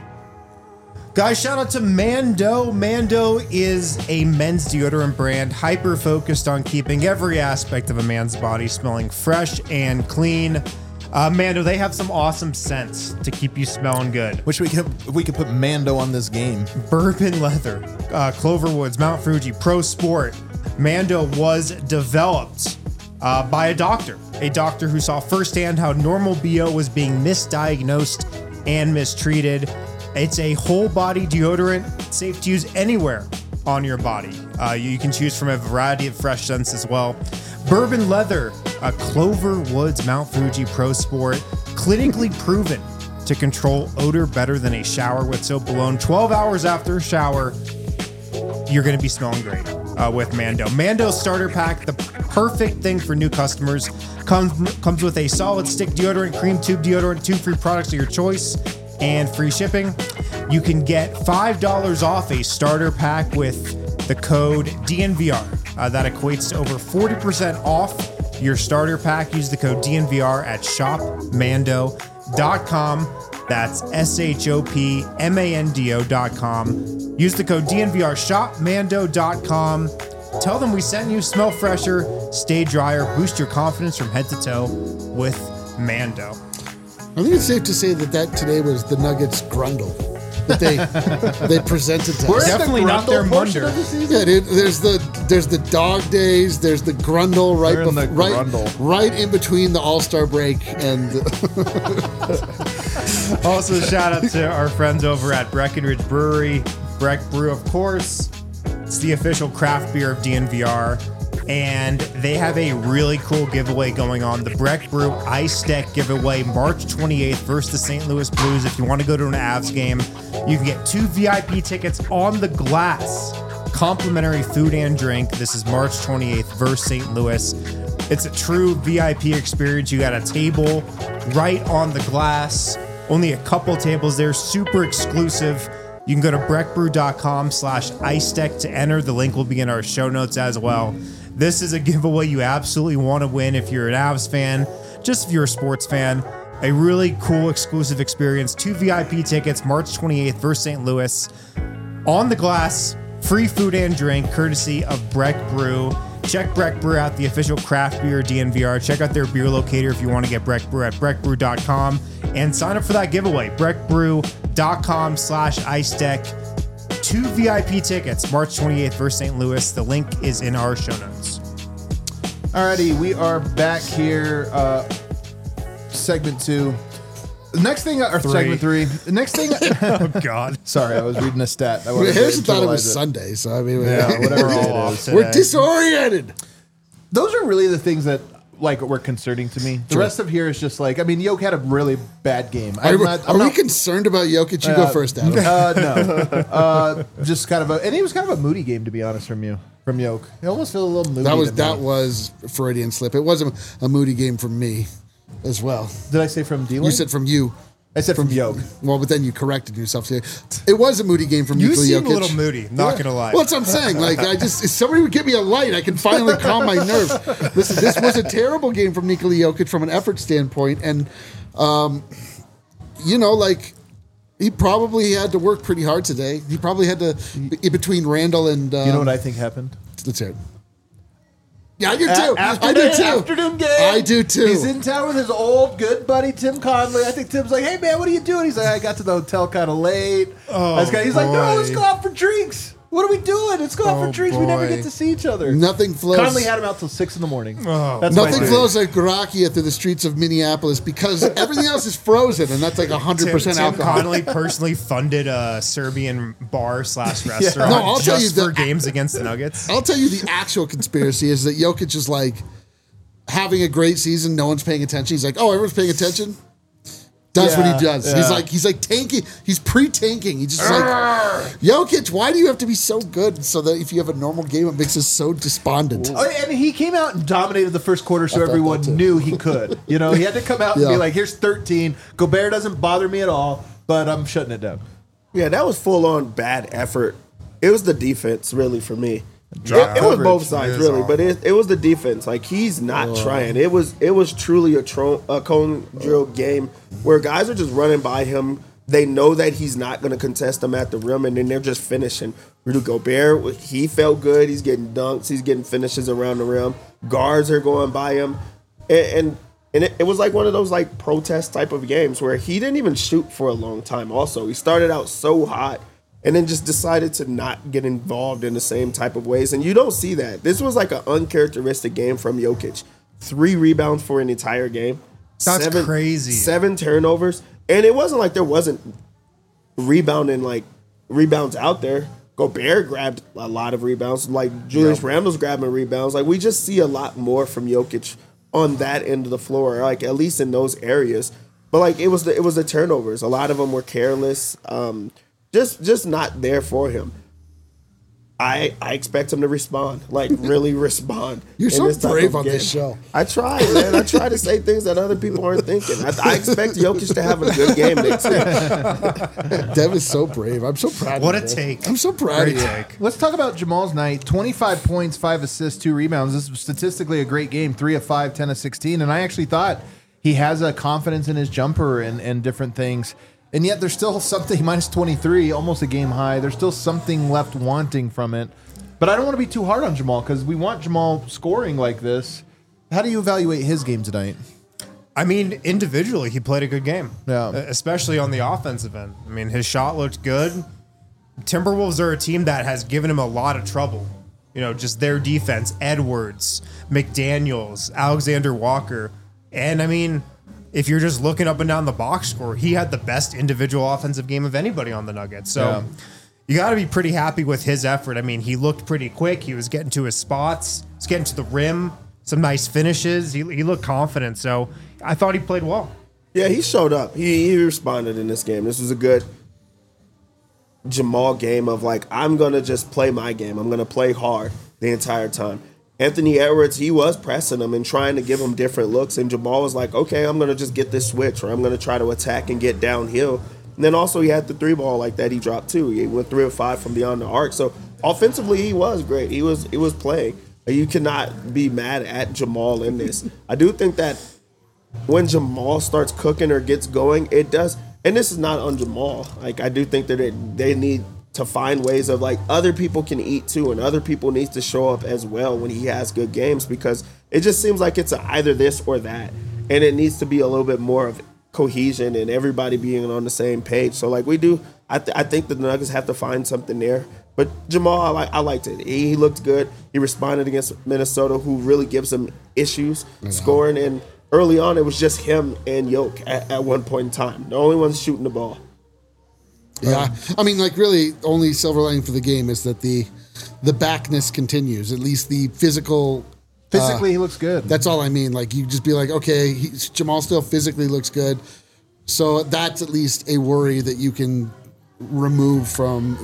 Guys, shout out to Mando. Mando is a men's deodorant brand hyper-focused on keeping every aspect of a man's body smelling fresh and clean. Mando, they have some awesome scents to keep you smelling good. Wish we could put Mando on this game. Bourbon Leather, Cloverwoods, Mount Fuji, Pro Sport. Mando was developed by a doctor who saw firsthand how normal BO was being misdiagnosed and mistreated. It's a whole body deodorant, safe to use anywhere on your body. You can choose from a variety of fresh scents as well. Bourbon Leather, Clover Woods Mount Fuji Pro Sport, clinically proven to control odor better than a shower with soap alone. 12 hours after a shower, you're going to be smelling great with Mando. Mando Starter Pack, the perfect thing for new customers, comes with a solid stick deodorant, cream tube deodorant, 2 free products of your choice, and free shipping. You can get $5 off a starter pack with the code DNVR. That equates to over 40% off your starter pack. Use the code DNVR at shopmando.com. That's shopmando.com. Use the code DNVR, shopmando.com. Tell them we sent you. Smell fresher, stay drier, boost your confidence from head to toe with Mando. I think it's safe to say that today was the Nuggets grundle that they presented to us. Definitely not their Munder. Yeah, dude, there's the dog days, there's the grundle right in between the All-Star break and Also, shout out to our friends over at Breckenridge Brewery. Breck Brew, of course. It's the official craft beer of DNVR. And they have a really cool giveaway going on. The Breck Brew Ice Deck giveaway, March 28th versus the St. Louis Blues. If you want to go to an Avs game, you can get 2 VIP tickets on the glass. Complimentary food and drink. This is March 28th versus St. Louis. It's a true VIP experience. You got a table right on the glass. Only a couple tables there. Super exclusive. You can go to breckbrew.com/ice deck to enter. The link will be in our show notes as well. This is a giveaway you absolutely want to win if you're an Avs fan, just if you're a sports fan. A really cool exclusive experience. 2 VIP tickets, March 28th versus St. Louis. On the glass, free food and drink, courtesy of Breck Brew. Check Breck Brew out, the official craft beer DNVR. Check out their beer locator if you want to get Breck Brew at breckbrew.com. And sign up for that giveaway, breckbrew.com/ice deck. 2 VIP tickets, March 28th versus St. Louis. The link is in our show notes. Alrighty, we are back here. Segment 2. Next thing, or segment 3. The next thing. Oh, God. Sorry, I was reading a stat. Harrison thought it was Sunday, so I mean, whatever it is. We're disoriented. Those are really the things that were concerning to me. The rest of here is just like, I mean, Jokic had a really bad game. Are we concerned about Jokic? You go first, Adam. No. Just kind of and it was kind of a moody game, to be honest, from Jokic. It almost felt a little moody. That was Freudian slip. It wasn't a moody game from me as well. Did I say from D-Lane? You said from you. I said from Jokic. Well, but then you corrected yourself. It was a moody game from You Nikola seem Jokic. a little moody, not gonna lie. Well, that's what I'm saying. Like, if somebody would give me a light, I can finally calm my nerves. Listen, this was a terrible game from Nikola Jokic from an effort standpoint, and he probably had to work pretty hard today. He probably had to between Randall and You know what I think happened? let's hear it. Yeah, I do too. Afternoon game. I do too. He's in town with his old good buddy Tim Conley. I think Tim's like, "Hey man, what are you doing?" He's like, "I got to the hotel kind of late." He's like, "No, let's go out for drinks. What are we doing? Let's go out for drinks. We never get to see each other." Nothing flows. Conley had him out till 6 a.m. That's Nothing my flows like Grachia through the streets of Minneapolis because everything else is frozen, and that's like 100% Tim alcohol. Connolly personally funded a Serbian bar / restaurant No, I'll tell you just for the- games against the Nuggets. I'll tell you the actual conspiracy is that Jokic is like having a great season. No one's paying attention. He's like, oh, everyone's paying attention. Does what he does. Yeah. He's like tanking. He's pre-tanking. He's just like, Jokic, why do you have to be so good so that if you have a normal game, it makes us so despondent? Oh, and he came out and dominated the first quarter, so everyone that too. knew he could. He had to come out and Yeah. be like, "Here's 13. Gobert doesn't bother me at all, but I'm shutting it down." Yeah, that was full on bad effort. It was the defense, really, for me. It was coverage. both sides, It is really, but it was the defense. Like, he's not trying. It was truly a cone drill game where guys are just running by him. They know that he's not going to contest them at the rim, and then they're just finishing. Rudy Gobert, he felt good. He's getting dunks. He's getting finishes around the rim. Guards are going by him. And it was like one of those like protest type of games where he didn't even shoot for a long time also. He started out so hot and then just decided to not get involved in the same type of ways. And you don't see that. This was like an uncharacteristic game from Jokic. 3 rebounds for an entire game. That's crazy. 7 turnovers. And it wasn't like there wasn't rebounds out there. Gobert grabbed a lot of rebounds. Like Julius Randle's grabbing rebounds. Like we just see a lot more from Jokic on that end of the floor, like at least in those areas. But like it was the turnovers. A lot of them were careless. Just not there for him. I expect him to respond, like really respond. You're in so this type brave of on game. this show. I try, man. I try to say things that other people aren't thinking. I expect Jokic to have a good game next year. Dev is so brave. I'm so proud What of a you. take. I'm so proud Great of you. take. Let's talk about Jamal's night. 25 points, 5 assists, 2 rebounds. This was statistically a great game. 3 of 5, 10 of 16. And I actually thought he has a confidence in his jumper and different things. And yet there's still something, minus 23, almost a game high. There's still something left wanting from it. But I don't want to be too hard on Jamal because we want Jamal scoring like this. How do you evaluate his game tonight? I mean, individually, he played a good game. Yeah. Especially on the offensive end. I mean, his shot looked good. Timberwolves are a team that has given him a lot of trouble. Just their defense, Edwards, McDaniels, Alexander Walker. And I mean, if you're just looking up and down the box score, he had the best individual offensive game of anybody on the Nuggets. So you got to be pretty happy with his effort. I mean, he looked pretty quick. He was getting to his spots. He's getting to the rim. Some nice finishes. He looked confident. So I thought he played well. Yeah, he showed up. He responded in this game. This was a good Jamal game of like, I'm going to just play my game. I'm going to play hard the entire time. Anthony Edwards, he was pressing him and trying to give him different looks. And Jamal was like, okay, I'm going to just get this switch or I'm going to try to attack and get downhill. And then also he had the 3-ball like that he dropped too. He went 3 of 5 from beyond the arc. So offensively, he was great. He was playing. You cannot be mad at Jamal in this. I do think that when Jamal starts cooking or gets going, it does. And this is not on Jamal. Like I do think that they need to find ways of like other people can eat too, and other people need to show up as well when he has good games because it just seems like it's either this or that, and it needs to be a little bit more of cohesion and everybody being on the same page. So like we do, I think the Nuggets have to find something there. But Jamal, I liked it. He looked good. He responded against Minnesota, who really gives him issues scoring. And early on, it was just him and Yoke at one point in time. The only ones shooting the ball. Yeah. I mean, like, really, only silver lining for the game is that the backness continues, at least the physical. Physically, he looks good. That's all I mean. Like, you just be like, okay, Jamal still physically looks good. So that's at least a worry that you can remove from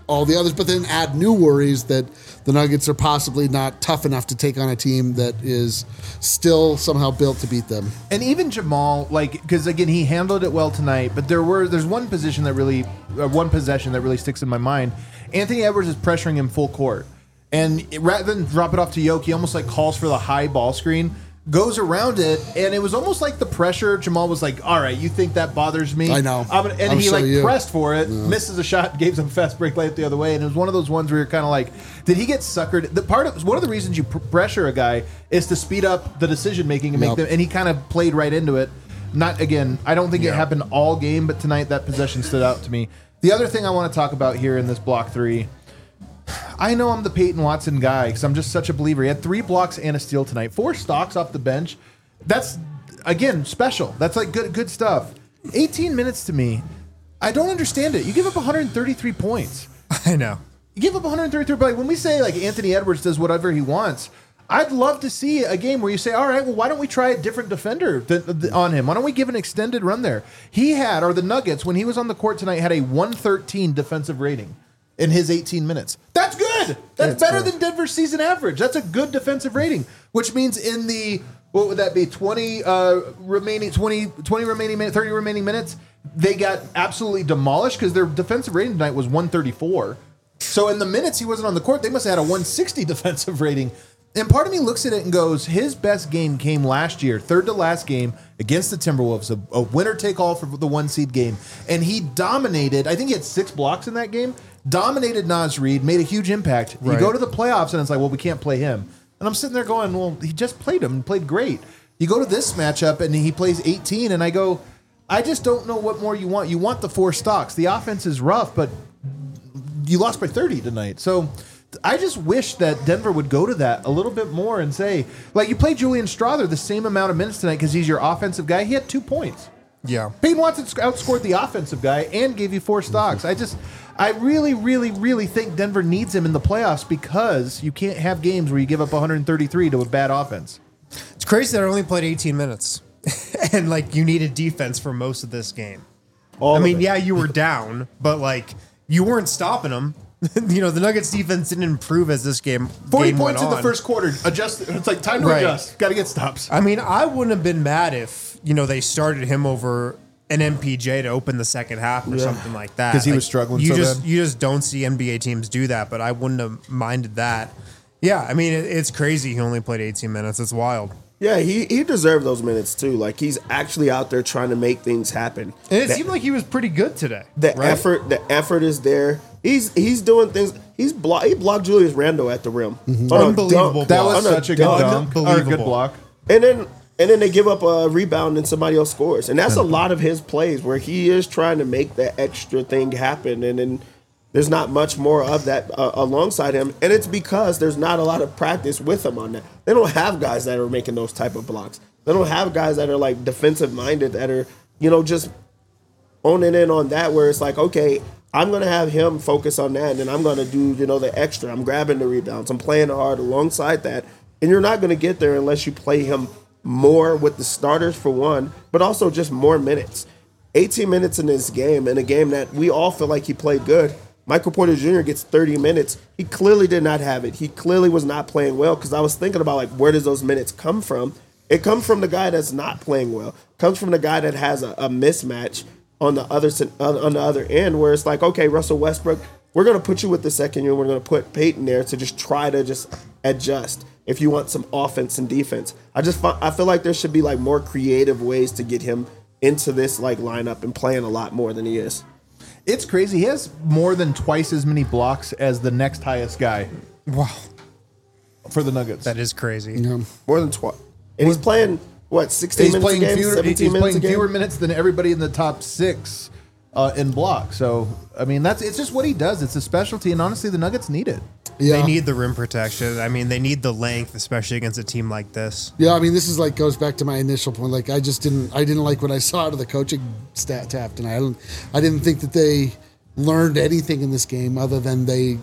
all the others, but then add new worries that the Nuggets are possibly not tough enough to take on a team that is still somehow built to beat them. And even Jamal, because again, he handled it well tonight, but there's one possession that really sticks in my mind. Anthony Edwards is pressuring him full court. And rather than drop it off to Yoke, he almost calls for the high ball screen, goes around it, and it was almost like the pressure. Jamal was like, all right, you think that bothers me? I know. And he pressed for it, misses a shot, gave him a fast break layup the other way, and it was one of those ones where you're kind of like, did he get suckered? One of the reasons you pressure a guy is to speed up the decision making and make them, and he kind of played right into it. Not again, I don't think it happened all game, but tonight that possession stood out to me. The other thing I want to talk about here in this block 3, I know I'm the Peyton Watson guy because I'm just such a believer. He had 3 blocks and a steal tonight. 4 stocks off the bench. That's, again, special. That's good stuff. 18 minutes to me. I don't understand it. You give up 133 points. I know. You give up 133, but when we say Anthony Edwards does whatever he wants, I'd love to see a game where you say, all right, well, why don't we try a different defender on him? Why don't we give an extended run there? The Nuggets, when he was on the court tonight, had a 113 defensive rating in his 18 minutes. That's good. That's better than Denver's season average. That's a good defensive rating, which means in the, what would that be, 30 remaining minutes, they got absolutely demolished because their defensive rating tonight was 134. So in the minutes he wasn't on the court, they must have had a 160 defensive rating. And part of me looks at it and goes, his best game came last year, third to last game against the Timberwolves, a winner-take-all for the 1-seed game. And he dominated. I think he had 6 blocks in that game. Dominated Naz Reid, made a huge impact. Right. You go to the playoffs, and it's like, well, we can't play him. And I'm sitting there going, well, he just played him and played great. You go to this matchup, and he plays 18, and I go, I just don't know what more you want. You want the 4 stocks. The offense is rough, but you lost by 30 tonight. So I just wish that Denver would go to that a little bit more and say, you play Julian Strawther the same amount of minutes tonight because he's your offensive guy. He had 2 points. Yeah. Peyton Watson outscored the offensive guy and gave you 4 stocks. I really, really, really think Denver needs him in the playoffs because you can't have games where you give up 133 to a bad offense. It's crazy that I only played 18 minutes. And, you needed defense for most of this game. You were down, but, you weren't stopping them. The Nuggets defense didn't improve as this game 40 game points went in on. the first quarter. Adjust. It's time to adjust. Got to get stops. I wouldn't have been mad if, they started him over an MPJ to open the second half or something like that. Because he was struggling you bad. You just don't see NBA teams do that, but I wouldn't have minded that. Yeah, it's crazy he only played 18 minutes. It's wild. Yeah, he deserved those minutes too. He's actually out there trying to make things happen. And it seemed like he was pretty good today. The effort is there. He's doing things. He blocked Julius Randle at the rim. Unbelievable. That was such a good dunk. Or a good Unbelievable. block. And then they give up a rebound and somebody else scores. And that's a lot of his plays where he is trying to make that extra thing happen. And then there's not much more of that alongside him. And it's because there's not a lot of practice with him on that. They don't have guys that are making those type of blocks. They don't have guys that are defensive minded that are, just owning in on that where it's okay, I'm going to have him focus on that, and then I'm going to do, the extra. I'm grabbing the rebounds. I'm playing hard alongside that. And you're not going to get there unless you play him more with the starters for one, but also just more minutes. 18 minutes in this game, in a game that we all feel like he played good. Michael Porter Jr. gets 30 minutes. He clearly did not have it. He clearly was not playing well because I was thinking about, where does those minutes come from? It comes from the guy that's not playing well. It comes from the guy that has a mismatch on the other end where it's okay, Russell Westbrook, we're going to put you with the second unit. We're going to put Peyton there to just try to just adjust if you want some offense and defense. I feel like there should be more creative ways to get him into this lineup and playing a lot more than he is. It's crazy. He has more than twice as many blocks as the next highest guy. Wow. For the Nuggets. That is crazy. Yeah. More than twice. And he's playing, 16 minutes a game? 17 minutes a game? Fewer minutes than everybody in the top 6 in block. So, it's just what he does. It's a specialty, and honestly, the Nuggets need it. Yeah. They need the rim protection. They need the length, especially against a team like this. Yeah, this is goes back to my initial point. I didn't like what I saw out of the coaching staff tonight. I didn't think that they learned anything in this game other than they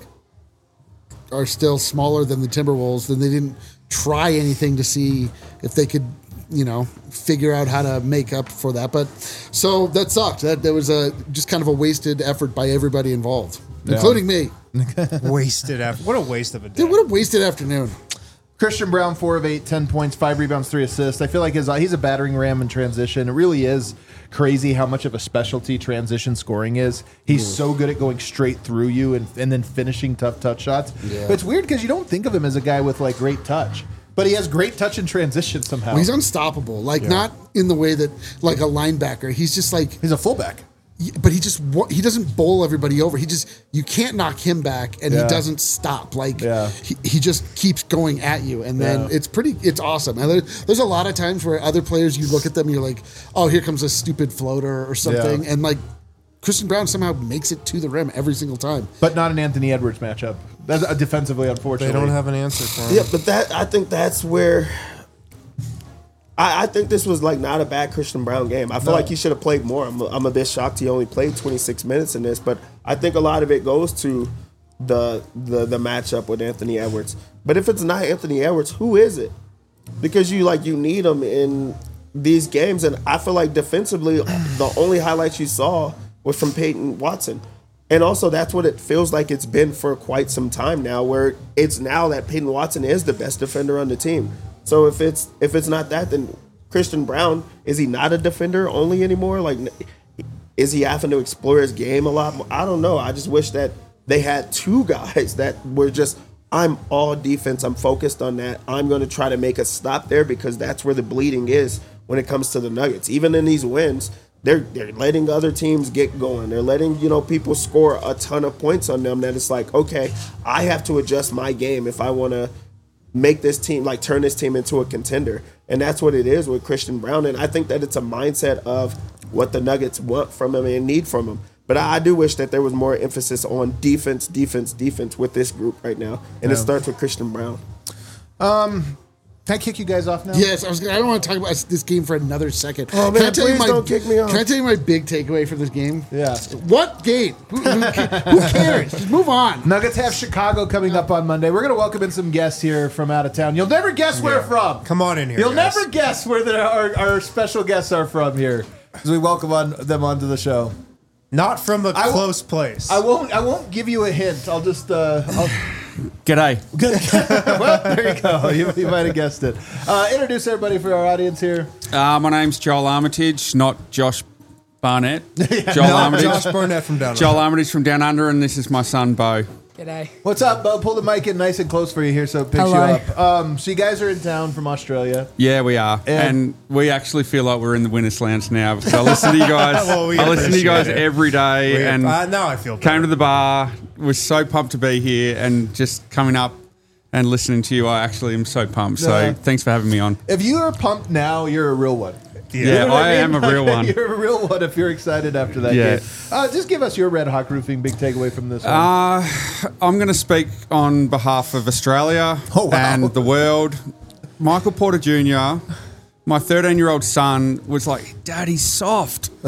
are still smaller than the Timberwolves. Then they didn't try anything to see if they could figure out how to make up for that. But so that sucked. That was just kind of a wasted effort by everybody involved, including me. Wasted effort. What a waste of a day. Dude, what a wasted afternoon. Christian Brown, 4 of 8, 10 points, 5 rebounds, 3 assists. I feel like he's a battering ram in transition. It really is crazy how much of a specialty transition scoring is. He's so good at going straight through you and then finishing tough touch shots. Yeah. But it's weird because you don't think of him as a guy with like great touch. But he has great touch in transition somehow. Well, he's unstoppable. Not in the way that like a linebacker. He's just like... He's a fullback. But he doesn't bowl everybody over. You can't knock him back, and he doesn't stop. He just keeps going at you, and then it's awesome. And there's a lot of times where other players, you look at them, and you're like, oh, here comes a stupid floater or something, and like Christian Brown somehow makes it to the rim every single time. But not an Anthony Edwards matchup. That's defensively, unfortunately. They don't have an answer for him. Yeah, but I think that's where I think this was like not a bad Christian Brown game. I feel like he should have played more. I'm a bit shocked he only played 26 minutes in this, but I think a lot of it goes to the matchup with Anthony Edwards. But if it's not Anthony Edwards, who is it? Because you need him in these games, and I feel like defensively, the only highlights you saw was from Peyton Watson. And also, that's what it feels like it's been for quite some time now, where it's now that Peyton Watson is the best defender on the team. So if it's not that, then Christian Brown, is he not a defender only anymore? Like, is he having to explore his game a lot more? I don't know. I just wish that they had two guys that were just, I'm all defense. I'm focused on that. I'm going to try to make a stop there because that's where the bleeding is when it comes to the Nuggets. Even in these wins, they're letting other teams get going. They're letting, people score a ton of points on them that it's like, okay, I have to adjust my game if I want to make this team, turn this team into a contender. And that's what it is with Christian Brown. And I think that it's a mindset of what the Nuggets want from him and need from him. But I do wish that there was more emphasis on defense with this group right now. And it starts with Christian Brown. Can I kick you guys off now? Yes, I don't want to talk about this game for another second. Oh, man, please don't kick me off. Can I tell you my big takeaway from this game? Yeah. What game? Who cares? Just move on. Nuggets have Chicago coming up on Monday. We're going to welcome in some guests here from out of town. You'll never guess where from. Come on in here. You'll never guess where our special guests are from here as we welcome them onto the show. Not from a close place. I won't give you a hint. I'll just... G'day. Well, there you go. You might have guessed it. Introduce everybody for our audience here. My name's Joel Armitage, not Josh Barnett. Joel Armitage. Josh Barnett from Down Under. Joel Armitage from Down Under, and this is my son, Bo. G'day. What's up, Bo? Pull the mic in nice and close for you here so it picks you up. So you guys are in town from Australia. Yeah, we are. And we actually feel like we're in the winner's lounge now because I listen to you guys. Well, I listen to you guys every day. Now I feel came to the bar, was so pumped to be here, and just coming up and listening to you, I actually am so pumped. So thanks for having me on. If you are pumped now, you're a real one. Yeah, I am a real one. You're a real one if you're excited after that game. Just give us your Red Hawk Roofing big takeaway from this one. I'm going to speak on behalf of Australia and the world. Michael Porter Jr., my 13-year-old son, was like, Dad, he's soft. He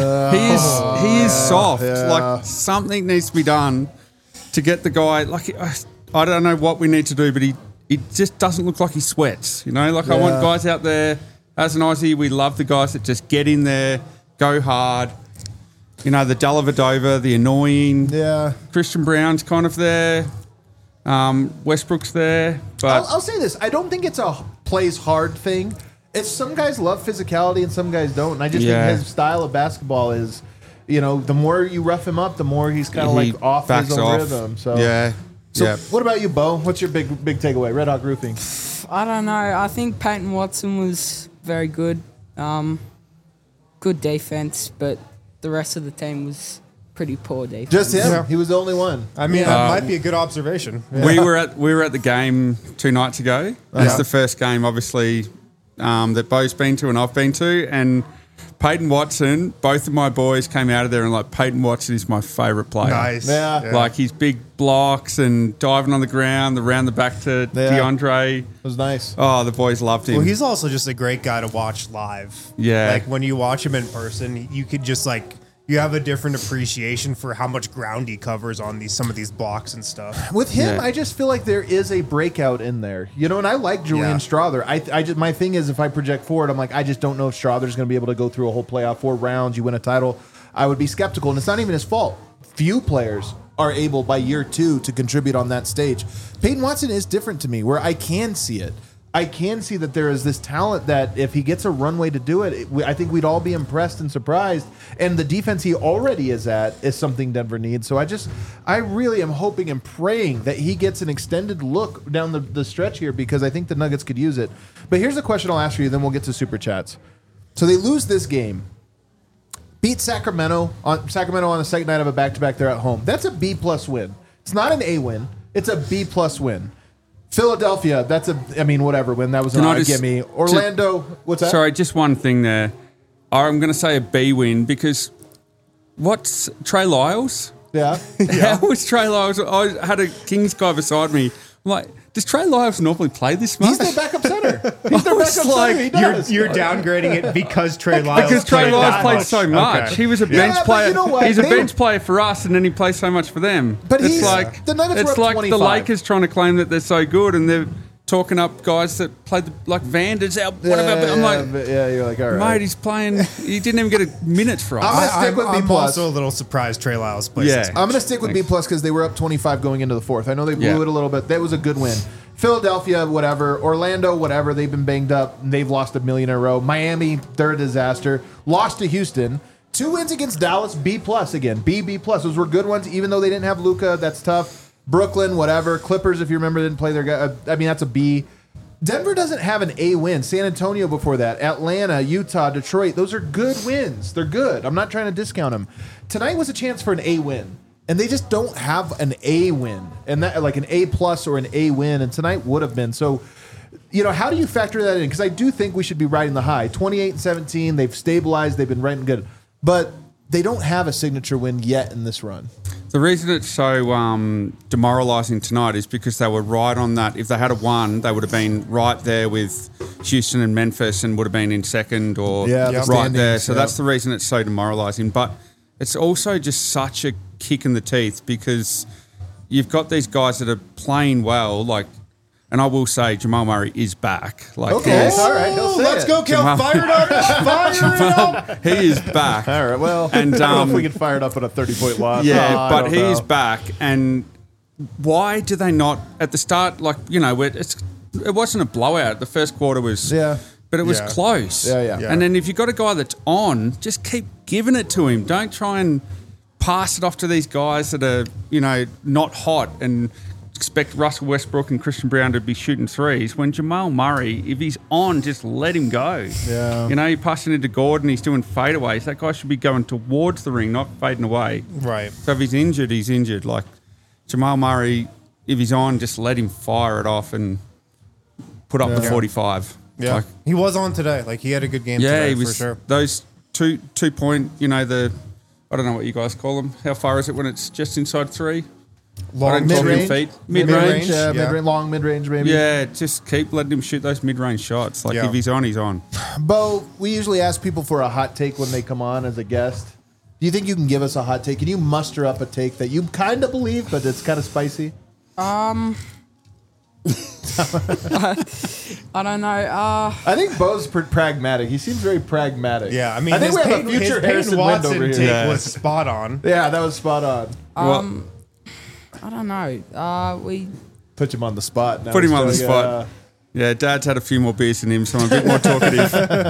is soft. Yeah. Like, something needs to be done to get the guy. Like, I don't know what we need to do, but he just doesn't look like he sweats. I want guys out there. As an Aussie, we love the guys that just get in there, go hard. The Dellavedova, the annoying. Yeah. Christian Brown's kind of there. Westbrook's there. But I'll say this. I don't think it's a plays hard thing. It's some guys love physicality and some guys don't. And I just think his style of basketball is, the more you rough him up, the more he's kind of like off his own rhythm. So what about you, Bo? What's your big takeaway? Red Hawk Roofing. I don't know. I think Peyton Watson was very good. Good defense, but the rest of the team was pretty poor defense. Just him? Yeah. He was the only one. I mean, that might be a good observation. Yeah. We were at the game 2 nights ago. It's the first game, obviously, that Bo's been to and I've been to, and Peyton Watson, both of my boys came out of there and like, Peyton Watson is my favourite player. Nice. Yeah. Like his big blocks and diving on the ground, around the back to DeAndre. It was nice. Oh, the boys loved him. Well, he's also just a great guy to watch live. Yeah. Like when you watch him in person, you could just you have a different appreciation for how much ground he covers on some of these blocks and stuff. With him, Yeah. I just feel like there is a breakout in there, and I like Julian Strother. I just my thing is if I project forward, I'm like I just don't know if Strother's going to be able to go through a whole playoff 4 rounds. You win a title, I would be skeptical, and it's not even his fault. Few players are able by year 2 to contribute on that stage. Peyton Watson is different to me, where I can see it. I can see that there is this talent that if he gets a runway to do it, I think we'd all be impressed and surprised. And the defense he already is at is something Denver needs. So I really am hoping and praying that he gets an extended look down the stretch here because I think the Nuggets could use it. But here's a question I'll ask for you, then we'll get to Super Chats. So they lose this game. Beat Sacramento on the second night of a back-to-back. They're at home. That's a B-plus win. It's not an A win. It's a B-plus win. Philadelphia, whatever win. That was an odd gimme. Orlando, what's that? Sorry, just one thing there. I'm going to say a B win because what's Trey Lyles? Yeah. How was Trey Lyles? I had a Kings guy beside me. I'm like, does Trey Lyles normally play this much? He's their backup center. He's their backup center. He does. You're downgrading it because Trey Lyles Because Trey Lyles played so much. Okay. He was a bench player. You know what? He's a bench player for us, and then he plays so much for them. But it's he's- like the Nuggets were it's up like 25. the Lakers trying to claim that they're so good, and they're talking up guys that played like Vander's out. I'm like, you're like, all right. mate, he's playing. He didn't even get a minute for us. I'm gonna stick with I'm B+. also a little surprised Trey Lyles plays Yeah. this much. I'm going to stick with B+ because they were up 25 going into the fourth. I know they blew Yeah. it a little bit. That was a good win. Philadelphia, whatever. Orlando, whatever. They've been banged up. They've lost a million in a row. Miami, they're a disaster. Lost to Houston. 2 wins against Dallas, B+ again. B+. Those were good ones, even though they didn't have Luka. That's tough. Brooklyn, whatever. Clippers, if you remember, didn't play their guy. That's a B. Denver doesn't have an A win. San Antonio before that. Atlanta, Utah, Detroit. Those are good wins. They're good. I'm not trying to discount them. Tonight was a chance for an A win. And they just don't have an A win. And that like an A+ or an A win. And tonight would have been. So, how do you factor that in? Because I do think we should be riding the high. 28-17. They've stabilized. They've been riding good. But they don't have a signature win yet in this run. The reason it's so demoralising tonight is because they were right on that. If they had won, they would have been right there with Houston and Memphis and would have been in second or the right standings, there. So yeah. that's the reason it's so demoralising. But it's also just such a kick in the teeth because you've got these guys that are playing well, and I will say Jamal Murray is back. Okay, all right. He'll say Let's it. go, Kel. Fire it up. Fire it up. He is back. All right, well, And, I don't know if we can fire it up on a 30-point loss. Yeah, I but don't he know. is back. And why do they not, at the start, it wasn't a blowout. The first quarter was, but it was Yeah. close. Yeah. And then if you've got a guy that's on, just keep giving it to him. Don't try and pass it off to these guys that are, not hot and expect Russell Westbrook and Christian Brown to be shooting threes. When Jamal Murray, if he's on, just let him go. Yeah. You're passing it to Gordon, he's doing fadeaways. That guy should be going towards the ring, not fading away. Right. So if he's injured, he's injured. Like Jamal Murray, if he's on, just let him fire it off and put up the 45. Yeah. He was on today. He had a good game Yeah, today, he was for sure. those 2-point, I don't know what you guys call them. How far is it when it's just inside 3? Long mid-range? feet. Mid-range, yeah. long mid-range, maybe. Yeah, just keep letting him shoot those mid-range shots. Yeah. If he's on, he's on. Bo, we usually ask people for a hot take when they come on as a guest. Do you think you can give us a hot take? Can you muster up a take that you kind of believe, but it's kind of spicy? I don't know. I think Bo's pragmatic. He seems very pragmatic. Yeah, I mean, I think his we have a his future Peyton Harrison Wind Watson over take here. was spot on. Yeah, that was spot on. I don't know. We Put him on the spot. Now Put him he's on the doing, spot. Yeah, Dad's had a few more beers than him, so I'm a bit more talkative.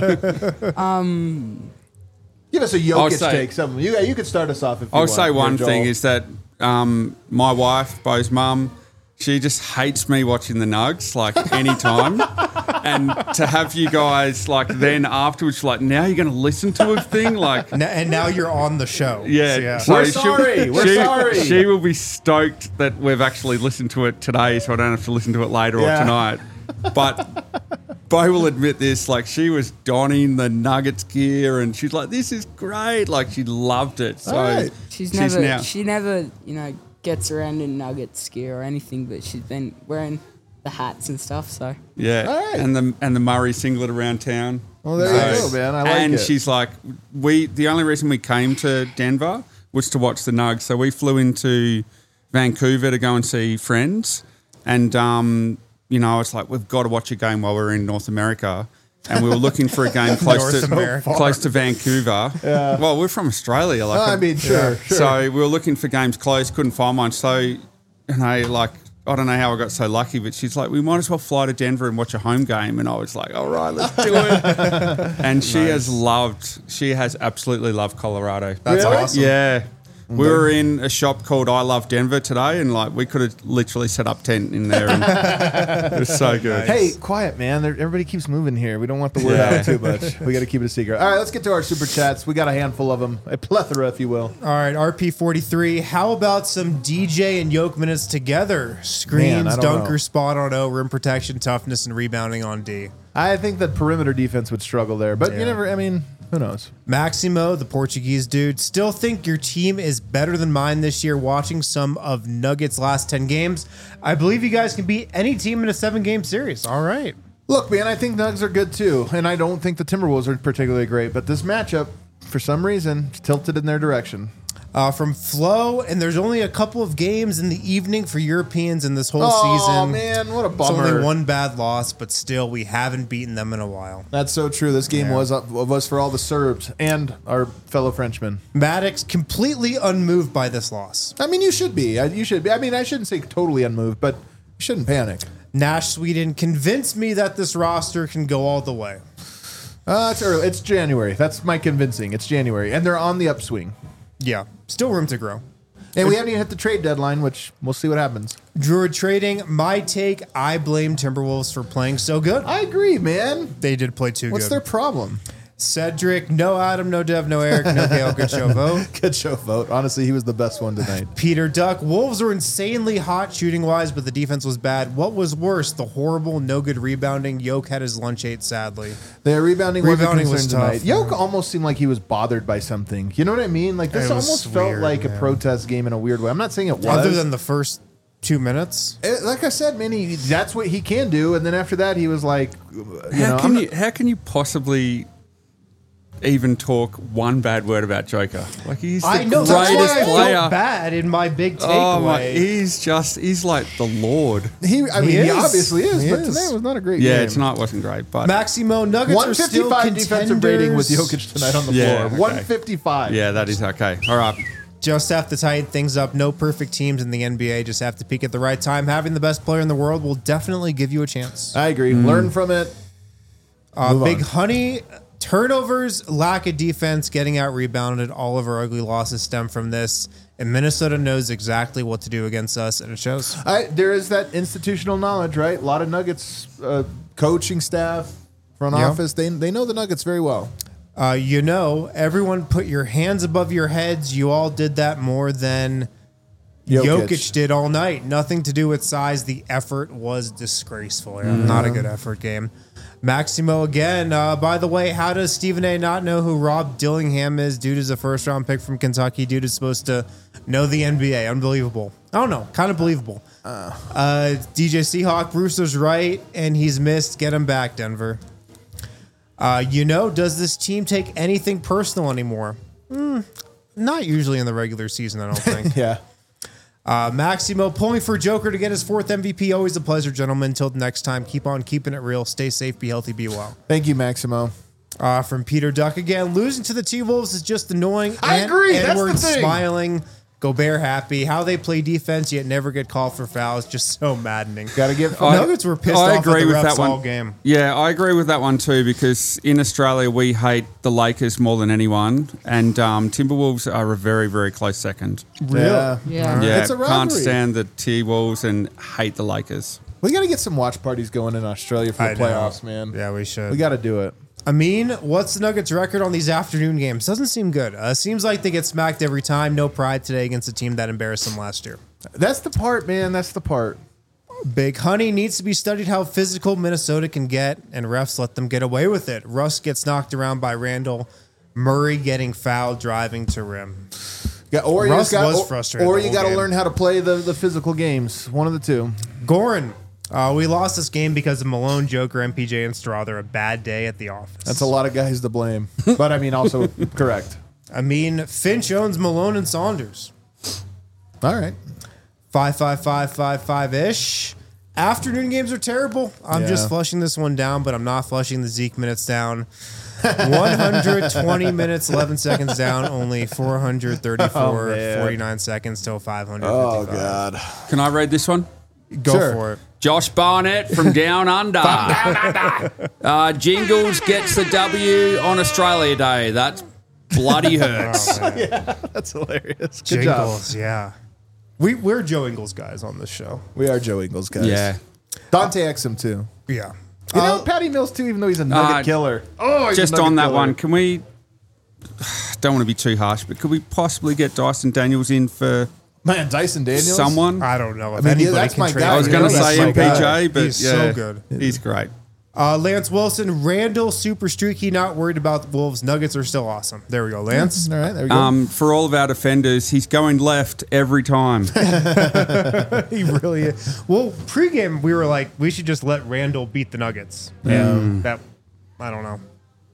Give us a I'll Jokic say- take. Something. You could start us off if you I'll want. say one Here, thing Joel. is that my wife, Bo's mum, she just hates me watching the Nugs, anytime. And to have you guys, then afterwards, now you're going to listen to a thing? And now you're on the show. Yeah. So, We're sorry. We're sorry. She will be stoked that we've actually listened to it today, so I don't have to listen to it later Yeah. or tonight. But Bo will admit this, she was donning the Nuggets gear and she's like, this is great. She loved it. So All right. she now- never gets around in Nuggets gear or anything, but she's been wearing the hats and stuff. So yeah. All right. And the Murray singlet around town. Well, there you go, man. I like and it. she's like, the only reason we came to Denver was to watch the Nugs. So we flew into Vancouver to go and see friends. And, you know, it's like, we've got to watch a game while we're in North America. And we were looking for a game close to Vancouver. Yeah. Well, we're from Australia. Like, sure. So we were looking for games close, couldn't find one. So, you know, like, I don't know how I got so lucky, but she's like, we might as well fly to Denver and watch a home game. And I was like, all right, let's do it. And she has absolutely loved Colorado. That's awesome. Yeah. We were in a shop called I Love Denver today, and like we could have literally set up tent in there. And it was so good. Hey, quiet, man. Everybody keeps moving here. We don't want the word out too much. We got to keep it a secret. All right, let's get to our super chats. We got a handful of them, a plethora, if you will. All right, RP43. How about some DJ and Yoke minutes together? Screens, dunker, spot on O, rim protection, toughness, and rebounding on D. I think that perimeter defense would struggle there, but you never. I mean, who knows? Maximo, the Portuguese dude, still think your team is better than mine this year. Watching some of Nuggets' last 10 games, I believe you guys can beat any team in a 7-game series. All right. Look, man, I think Nugs are good too, and I don't think the Timberwolves are particularly great. But this matchup, for some reason, is tilted in their direction. From Flo, and there's only a couple of games in the evening for Europeans in this whole season. Oh, man, what a bummer. It's only one bad loss, but still, we haven't beaten them in a while. That's so true. This game was for all the Serbs and our fellow Frenchmen. Maddox completely unmoved by this loss. I mean, you should be. You should be. I mean, I shouldn't say totally unmoved, but you shouldn't panic. Nash Sweden convinced me that this roster can go all the way. It's early. It's January. That's my convincing. It's January, and they're on the upswing. Yeah, still room to grow. And we haven't even hit the trade deadline, which we'll see what happens. Druid trading, my take, I blame Timberwolves for playing so good. I agree, man. They did play too good. What's their problem? Cedric, no Adam, no Dev, no Eric, no Gale, good show vote. Good show vote. Honestly, he was the best one tonight. Peter Duck, Wolves were insanely hot shooting-wise, but the defense was bad. What was worse, the horrible, no good rebounding? Yoke had his lunch ate, sadly. Their rebounding was tough tonight. Yoke almost seemed like he was bothered by something. You know what I mean? Like this almost felt like a protest game in a weird way. I'm not saying it was. Other than the first 2 minutes. Like I said, man, that's what he can do. And then after that, he was like, how can you possibly even talk one bad word about Joker? Like he's the greatest player. Felt bad in my big takeaway. Oh my, he's like the Lord. He obviously is, but tonight was not a great game. Yeah, tonight wasn't great, but Maximo Nuggets are still 155 defensive rating with Jokic tonight on the floor. Okay. 155. Yeah, that is okay. All right. Just have to tighten things up. No perfect teams in the NBA. Just have to peak at the right time. Having the best player in the world will definitely give you a chance. I agree. Learn from it. Big Honey. Turnovers, lack of defense, getting out rebounded. All of our ugly losses stem from this. And Minnesota knows exactly what to do against us, and it shows. There is that institutional knowledge, right? A lot of Nuggets coaching staff, front office, they know the Nuggets very well. Everyone put your hands above your heads. You all did that more than Jokic did all night. Nothing to do with size. The effort was disgraceful. Not a good effort game. Maximo again. By the way, how does Stephen A. not know who Rob Dillingham is? Dude is a first-round pick from Kentucky. Dude is supposed to know the NBA. Unbelievable. I don't know. Kind of believable. DJ Seahawk, Brewster's right, and he's missed. Get him back, Denver. Does this team take anything personal anymore? Not usually in the regular season, I don't think. Yeah. Maximo pulling for Joker to get his 4th MVP. Always a pleasure, gentlemen. Until next time, keep on keeping it real. Stay safe, be healthy, be well. Thank you, Maximo. From Peter Duck again. Losing to the T-Wolves is just annoying. I agree. Edwards That's the thing. smiling. Gobert happy. How they play defense yet never get called for fouls. Just so maddening. Got to give. Nuggets were pissed off at the refs all game. Yeah, I agree with that one too, because in Australia we hate the Lakers more than anyone, and Timberwolves are a very, very close second. Yeah. Yeah, It's a rivalry. can't stand the T-Wolves and hate the Lakers. We got to get some watch parties going in Australia for the playoffs, man. Yeah, we should. We got to do it. What's the Nuggets' record on these afternoon games? Doesn't seem good. Seems like they get smacked every time. No pride today against a team that embarrassed them last year. That's the part, man. That's the part. Big Honey needs to be studied how physical Minnesota can get, and refs let them get away with it. Russ gets knocked around by Randall. Murray getting fouled driving to rim. Russ was frustrated. Or you got to learn how to play the physical games. One of the two. Goran, We lost this game because of Malone, Joker, MPJ, and Straw. They're a bad day at the office. That's a lot of guys to blame. But I mean, also correct. I mean, Finch owns Malone and Saunders. All right. 5-5-5-5-5-ish. Afternoon games are terrible. I'm Yeah. just flushing this one down, but I'm not flushing the Zeke minutes down. 120 minutes, 11 seconds down, only 434, man. 49 seconds till 555. Oh, God. Can I read this one? Go Sure. for it. Josh Barnett from Down Under. Jingles gets the W on Australia Day. That bloody hurts. That's hilarious. Good job. Jingles, yeah. We're Joe Ingles guys on this show. We are Joe Ingles, guys. Yeah. Dante Exum, too. Yeah. You know, Patty Mills, too, even though he's a nugget killer. Oh, he's Just a nugget on that killer. one, can we? Don't want to be too harsh, but could we possibly get Dyson Daniels in for Man, Dyson Daniels. someone? I don't know if mean, anybody that's can my trade. guy. I was You going know to that's say my guy. MPJ, but He's yeah, so good. He's great. Lance Wilson, Randall, super streaky, not worried about the Wolves. Nuggets are still awesome. There we go, Lance. All right, there we go. For all of our defenders, he's going left every time. He really is. Well, pregame, we were like, we should just let Randall beat the Nuggets. And that, I don't know.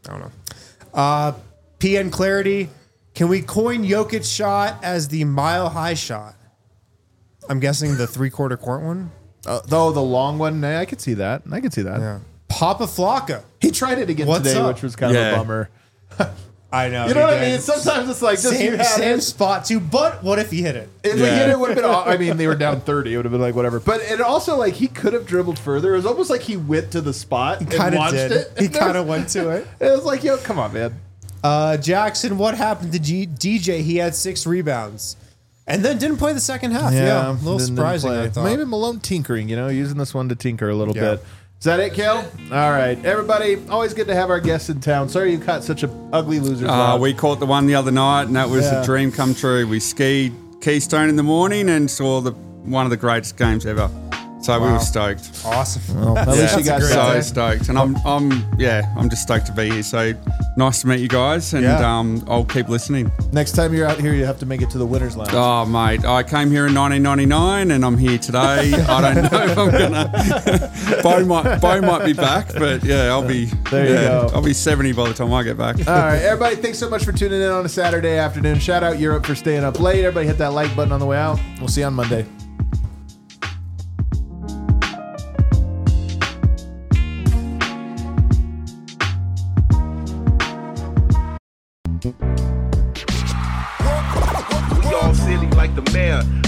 PN Clarity, can we coin Jokic shot as the mile high shot? I'm guessing the 3/4 court one. Though the long one, I could see that. Yeah. Papa Flocka. He tried it again What's today, up? which was kind of Yeah. a bummer. I know. You know what I mean? Sometimes it's like, just you had Same it. spot too, but what if he hit it? If we hit it, would have been. I mean, they were down 30. It would have been like whatever. But it also like he could have dribbled further. It was almost like he went to the spot and Kind of watched did. it. He kind of went to it. It was like, yo, come on, man. Jackson, what happened to DJ? He had 6 rebounds. And then didn't play the second half. Yeah. A little didn't surprising, play. I thought. Maybe Malone tinkering, using this one to tinker a little Yeah. bit. Is that it, Kale? All right. Everybody, always good to have our guests in town. Sorry you caught such a ugly loser. We caught the one the other night, and that was Yeah. a dream come true. We skied Keystone in the morning and saw one of the greatest games ever. So we were stoked. Awesome. At least you got So that. stoked, and I'm just stoked to be here. So nice to meet you guys, and Yeah. I'll keep listening. Next time you're out here, you have to make it to the Winners Lounge. Oh mate, I came here in 1999, and I'm here today. I don't know if I'm gonna. Bo might be back, but yeah, I'll be. There you go. I'll be 70 by the time I get back. All right, everybody, thanks so much for tuning in on a Saturday afternoon. Shout out Europe for staying up late. Everybody hit that like button on the way out. We'll see you on Monday. We all silly like the mayor.